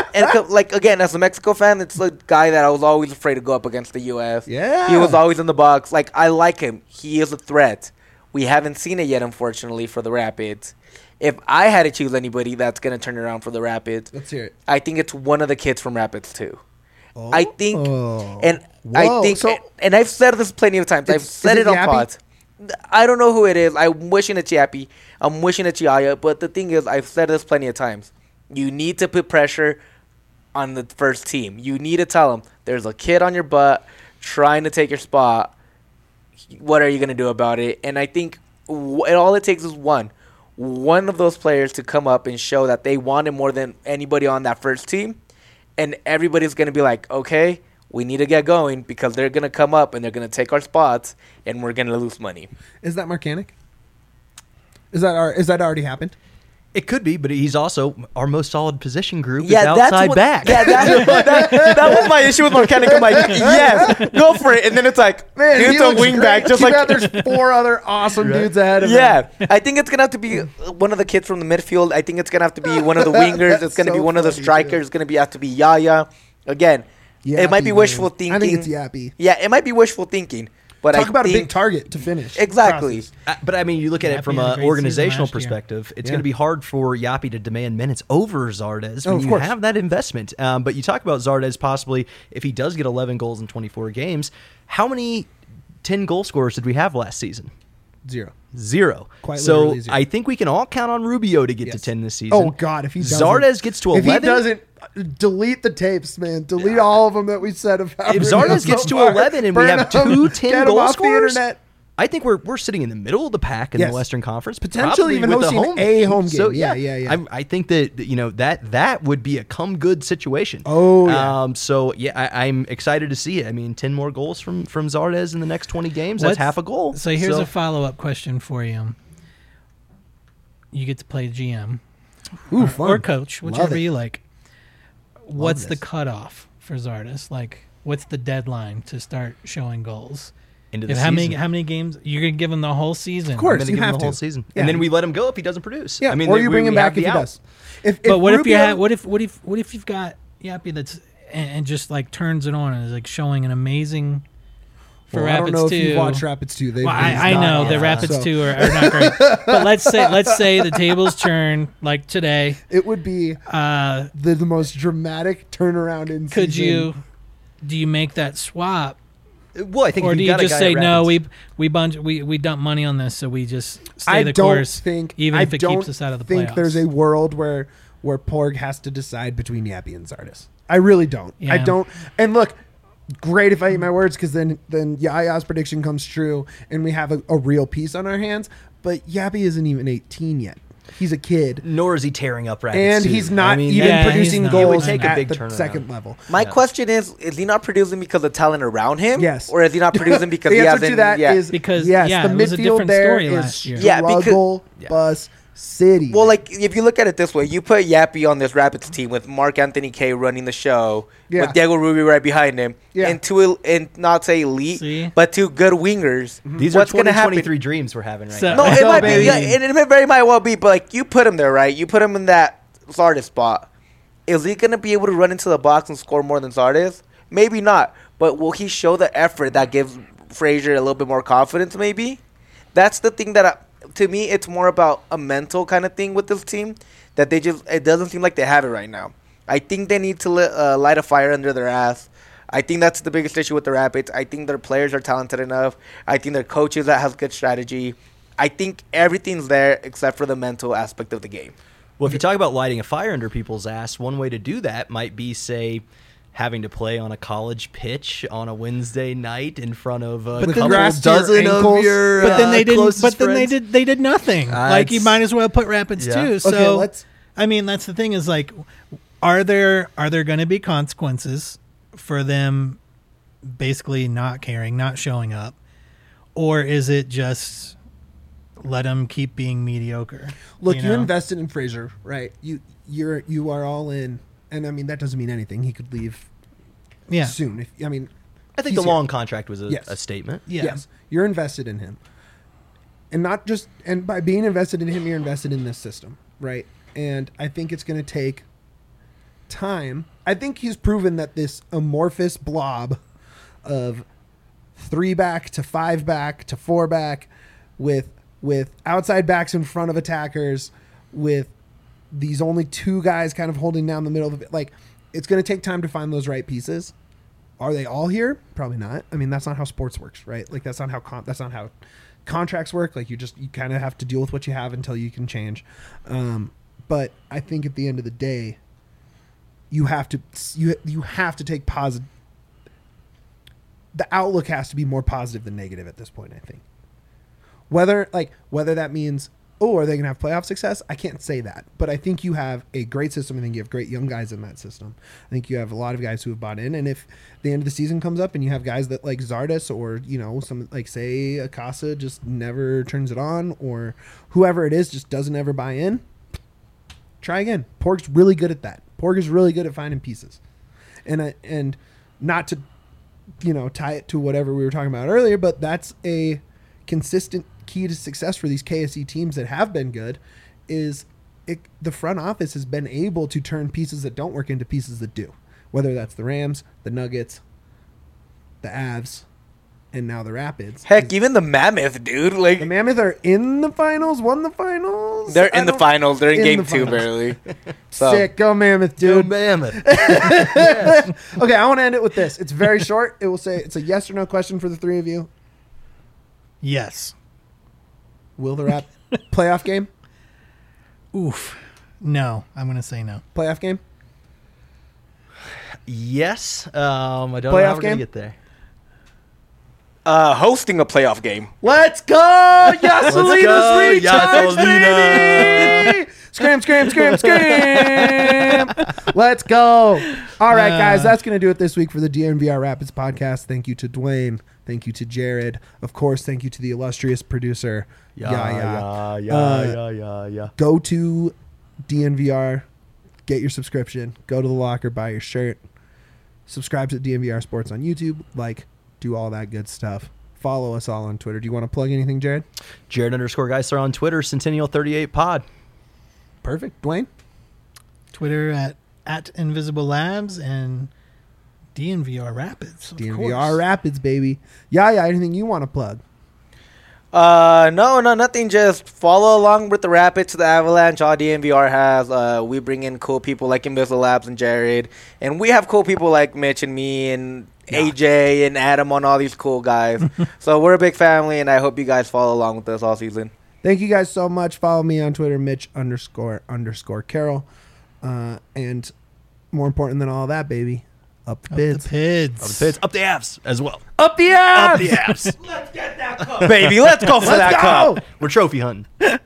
again as a Mexico fan, it's the guy that I was always afraid to go up against the U.S. Yeah. He was always in the box. Like, I like him. He is a threat. We haven't seen it yet, unfortunately, for the Rapids. If I had to choose anybody that's gonna turn around for the Rapids, Let's hear it. I think it's one of the kids from Rapids too. I think, Oh. and Whoa, I think, so and I've said this plenty of times. I've Is said it it on Yappy? pods. I don't know who it is. I'm wishing it's Yappy. I'm wishing it's Yaya. But the thing is, I've said this plenty of times. You need to put pressure on the first team. You need to tell them there's a kid on your butt trying to take your spot. What are you going to do about it? And I think all it takes is one of those players to come up and show that they want it more than anybody on that first team. And everybody's going to be like, okay, we need to get going because they're going to come up and they're going to take our spots and we're going to lose money. Is that Marcanic? Is that already happened? It could be, but he's also our most solid position group is Yeah, that's outside what, back. Yeah, that was my issue with Marquette. I'm like, yes, go for it. And then it's like, Man, dude, he it's a looks wing great. back, just Too like bad there's 4 other awesome dudes ahead of him. yeah. I think it's gonna have to be one of the kids from the midfield. I think it's gonna have to be one of the wingers. It's gonna so be one of the funny, strikers. dude. It's gonna have to be Yaya. Again, it might be Yappy, wishful man. thinking. I think it's Yappy. Yeah, it might be wishful thinking. But Talk I about a think big target to finish. Exactly. Process. But I mean, you look at Yappy it from had a an great organizational season last year. perspective. It's Yeah. going to be hard for Yappy to demand minutes over Zardes Oh, when of you course. have that investment. But you talk about Zardes possibly if he does get 11 goals in 24 games. How many 10 goal scorers did we have last season? 0. 0. Quite so literally 0. I think we can all count on Rubio to get to Yes. 10 this season. Oh God, if he doesn't, Zardes gets to 11. If he doesn't, delete the tapes, man. Delete all of them that we said about. If Rubio Zardes so gets to far. 11 and we Burn have them. 2 Get 10 them goal off scorers, the internet. I think we're sitting in the middle of the pack in Yes. the Western Conference, Potentially probably even with the hosting home a home So game. Yeah. I think that that would be a come good situation. Oh, yeah. So yeah, I'm excited to see it. I mean, 10 more goals from Zardes in the next 20 games. That's half a goal. So here's a follow-up question for you. You get to play GM Ooh, or fun. coach, Love whichever it. you like. What's the this. cutoff for Zardes? Like, what's the deadline to start showing goals? into the If season. how many games you're gonna give him the whole season? Of course. I'm gonna you give him have the whole to. season, Yeah. and then we let him go if he doesn't produce. Yeah, I mean, or you bring him back have if the he out. does. If But what if you Rubio- had? What if you've got Yappy that's and just like turns it on and is like showing an amazing for Well, I don't Rapids know 2. if you've watched Rapids 2. They've Well, been I know not the awesome. Rapids So 2 are not great. But let's say the tables turn like today. It would be Uh, the most dramatic turnaround in could season. do you make that swap, Well, I think or if do you you got a just guy say at no? Rapids- We dump money on this, so we just stay I the don't course, think even I if it don't keeps us out of the think playoffs. there's a world where Porg has to decide between Yappy and Zardes. I really don't. I Yeah. don't. And look, great if I eat my words because then Yaya's prediction comes true and we have a real piece on our hands. But Yappy isn't even 18 yet. He's a kid. nor is he tearing up Rapids. And too. he's not I mean, even yeah, producing he's not. It would goals take a at big the turnaround. second level. My Yeah. question is he not producing because of talent around him? Yes. Or is he not producing because The he answer hasn't? to that yeah. is Because, yes, yeah, the it was a midfield different there story is last year. Yeah, because- struggle bus city. Well, like if you look at it this way, you put Yappy on this Rapids team with Mark Anthony K running the show, Yeah. with Diego Rubio right behind him, Yeah. and not say elite, See? but two good wingers. These What's are gonna happen? 2023 dreams we're having right So- now. No, it So, might be. baby. Yeah, it very might well be. But like you put him there, right? You put him in that Zardes spot. Is he gonna be able to run into the box and score more than Zardes? Maybe not. But will he show the effort that gives Frazier a little bit more confidence? Maybe. That's the thing that to me it's more about a mental kind of thing with this team that it doesn't seem like they have it right now. I think they need to light a fire under their ass. I think that's the biggest issue with the Rapids. I think their players are talented enough. I think their coaches that have good strategy. I think everything's there except for the mental aspect of the game. Well, if you talk about lighting a fire under people's ass, one way to do that might be, say, having to play on a college pitch on a Wednesday night in front of a With couple grass to your dozen of ankles. your But then they didn't. closest But then friends. they did nothing. Like you it's- might as well put Rapids Yeah. too. Okay, So let's- I mean, that's the thing. Is like, are there going to be consequences for them basically not caring, not showing up, or is it just let them keep being mediocre? Look, you know? invested in Frazier, right? You are all in, and I mean that doesn't mean anything. He could leave Yeah. soon. I think he's the here. long contract was Yes. a statement. Yeah. Yes, you're invested in him, and not just and by being invested in him, you're invested in this system, right? And I think it's going to take time. I think he's proven that this amorphous blob of 3-back to 5-back to 4-back with outside backs in front of attackers with these only 2 guys kind of holding down the middle of it. Like, it's going to take time to find those right pieces. Are they all here? Probably not. I mean, that's not how sports works, right? Like, that's not how contracts work. Like, you kind of have to deal with what you have until you can change. But I think at the end of the day, you have to take positive. The outlook has to be more positive than negative at this point, I think. Whether that means, are they going to have playoff success? I can't say that. But I think you have a great system. I think you have great young guys in that system. I think you have a lot of guys who have bought in. And if the end of the season comes up and you have guys that like Zardes or, some like say Akasa just never turns it on or whoever it is just doesn't ever buy in, Try again. Porg's really good at that. Porg is really good at finding pieces. And not to, tie it to whatever we were talking about earlier, but that's a consistent key to success for these KSE teams that have been good is the front office has been able to turn pieces that don't work into pieces that do, whether that's the Rams, the Nuggets, the Avs, and now the Rapids. Heck, even the Mammoth, dude. Like The Mammoth are in the finals, won the finals. they're in the finals. They're in in game the 2 finals. barely. So Sick. Go Mammoth, Dude, dude. Mammoth. Okay, I want to end it with this. It's very short. It will say it's a yes or no question for the three of you. Yes. Will the Rap playoff game? Oof. No, I'm going to say no. Playoff game? Yes. I don't know Playoff how we're going game? to get there. hosting a playoff game. Let's go! Yasolina's go, recharge, Yasolina. baby! Scram, scram, scram, scram! Let's go! All right, guys, that's going to do it this week for the DNVR Rapids podcast. Thank you to Dwayne. Thank you to Jared. Of course, thank you to the illustrious producer, Yaya. Yeah. Go to DNVR, get your subscription, go to the locker, buy your shirt, subscribe to DNVR Sports on YouTube, do all that good stuff. Follow us all on Twitter. Do you want to plug anything, Jared? Jared_Geisler on Twitter, Centennial38Pod. Perfect. Dwayne? Twitter at Invisible Labs and DNVR Rapids. Of DNVR course. Rapids, baby. Yaya, anything you want to plug? No, nothing. Just follow along with the Rapids, the Avalanche. All DNVR has. We bring in cool people like Invisible Labs and Jared, and we have cool people like Mitch and me and AJ and Adam on all these cool guys. So we're a big family, and I hope you guys follow along with us all season. Thank you guys so much. Follow me on Twitter, Mitch__Carroll. And more important than all that, baby, up the bids. The Pids. Up the Pits, up the Avs as well. Up the ass! Up the Avs. Baby, let's go for that cup. We're trophy hunting.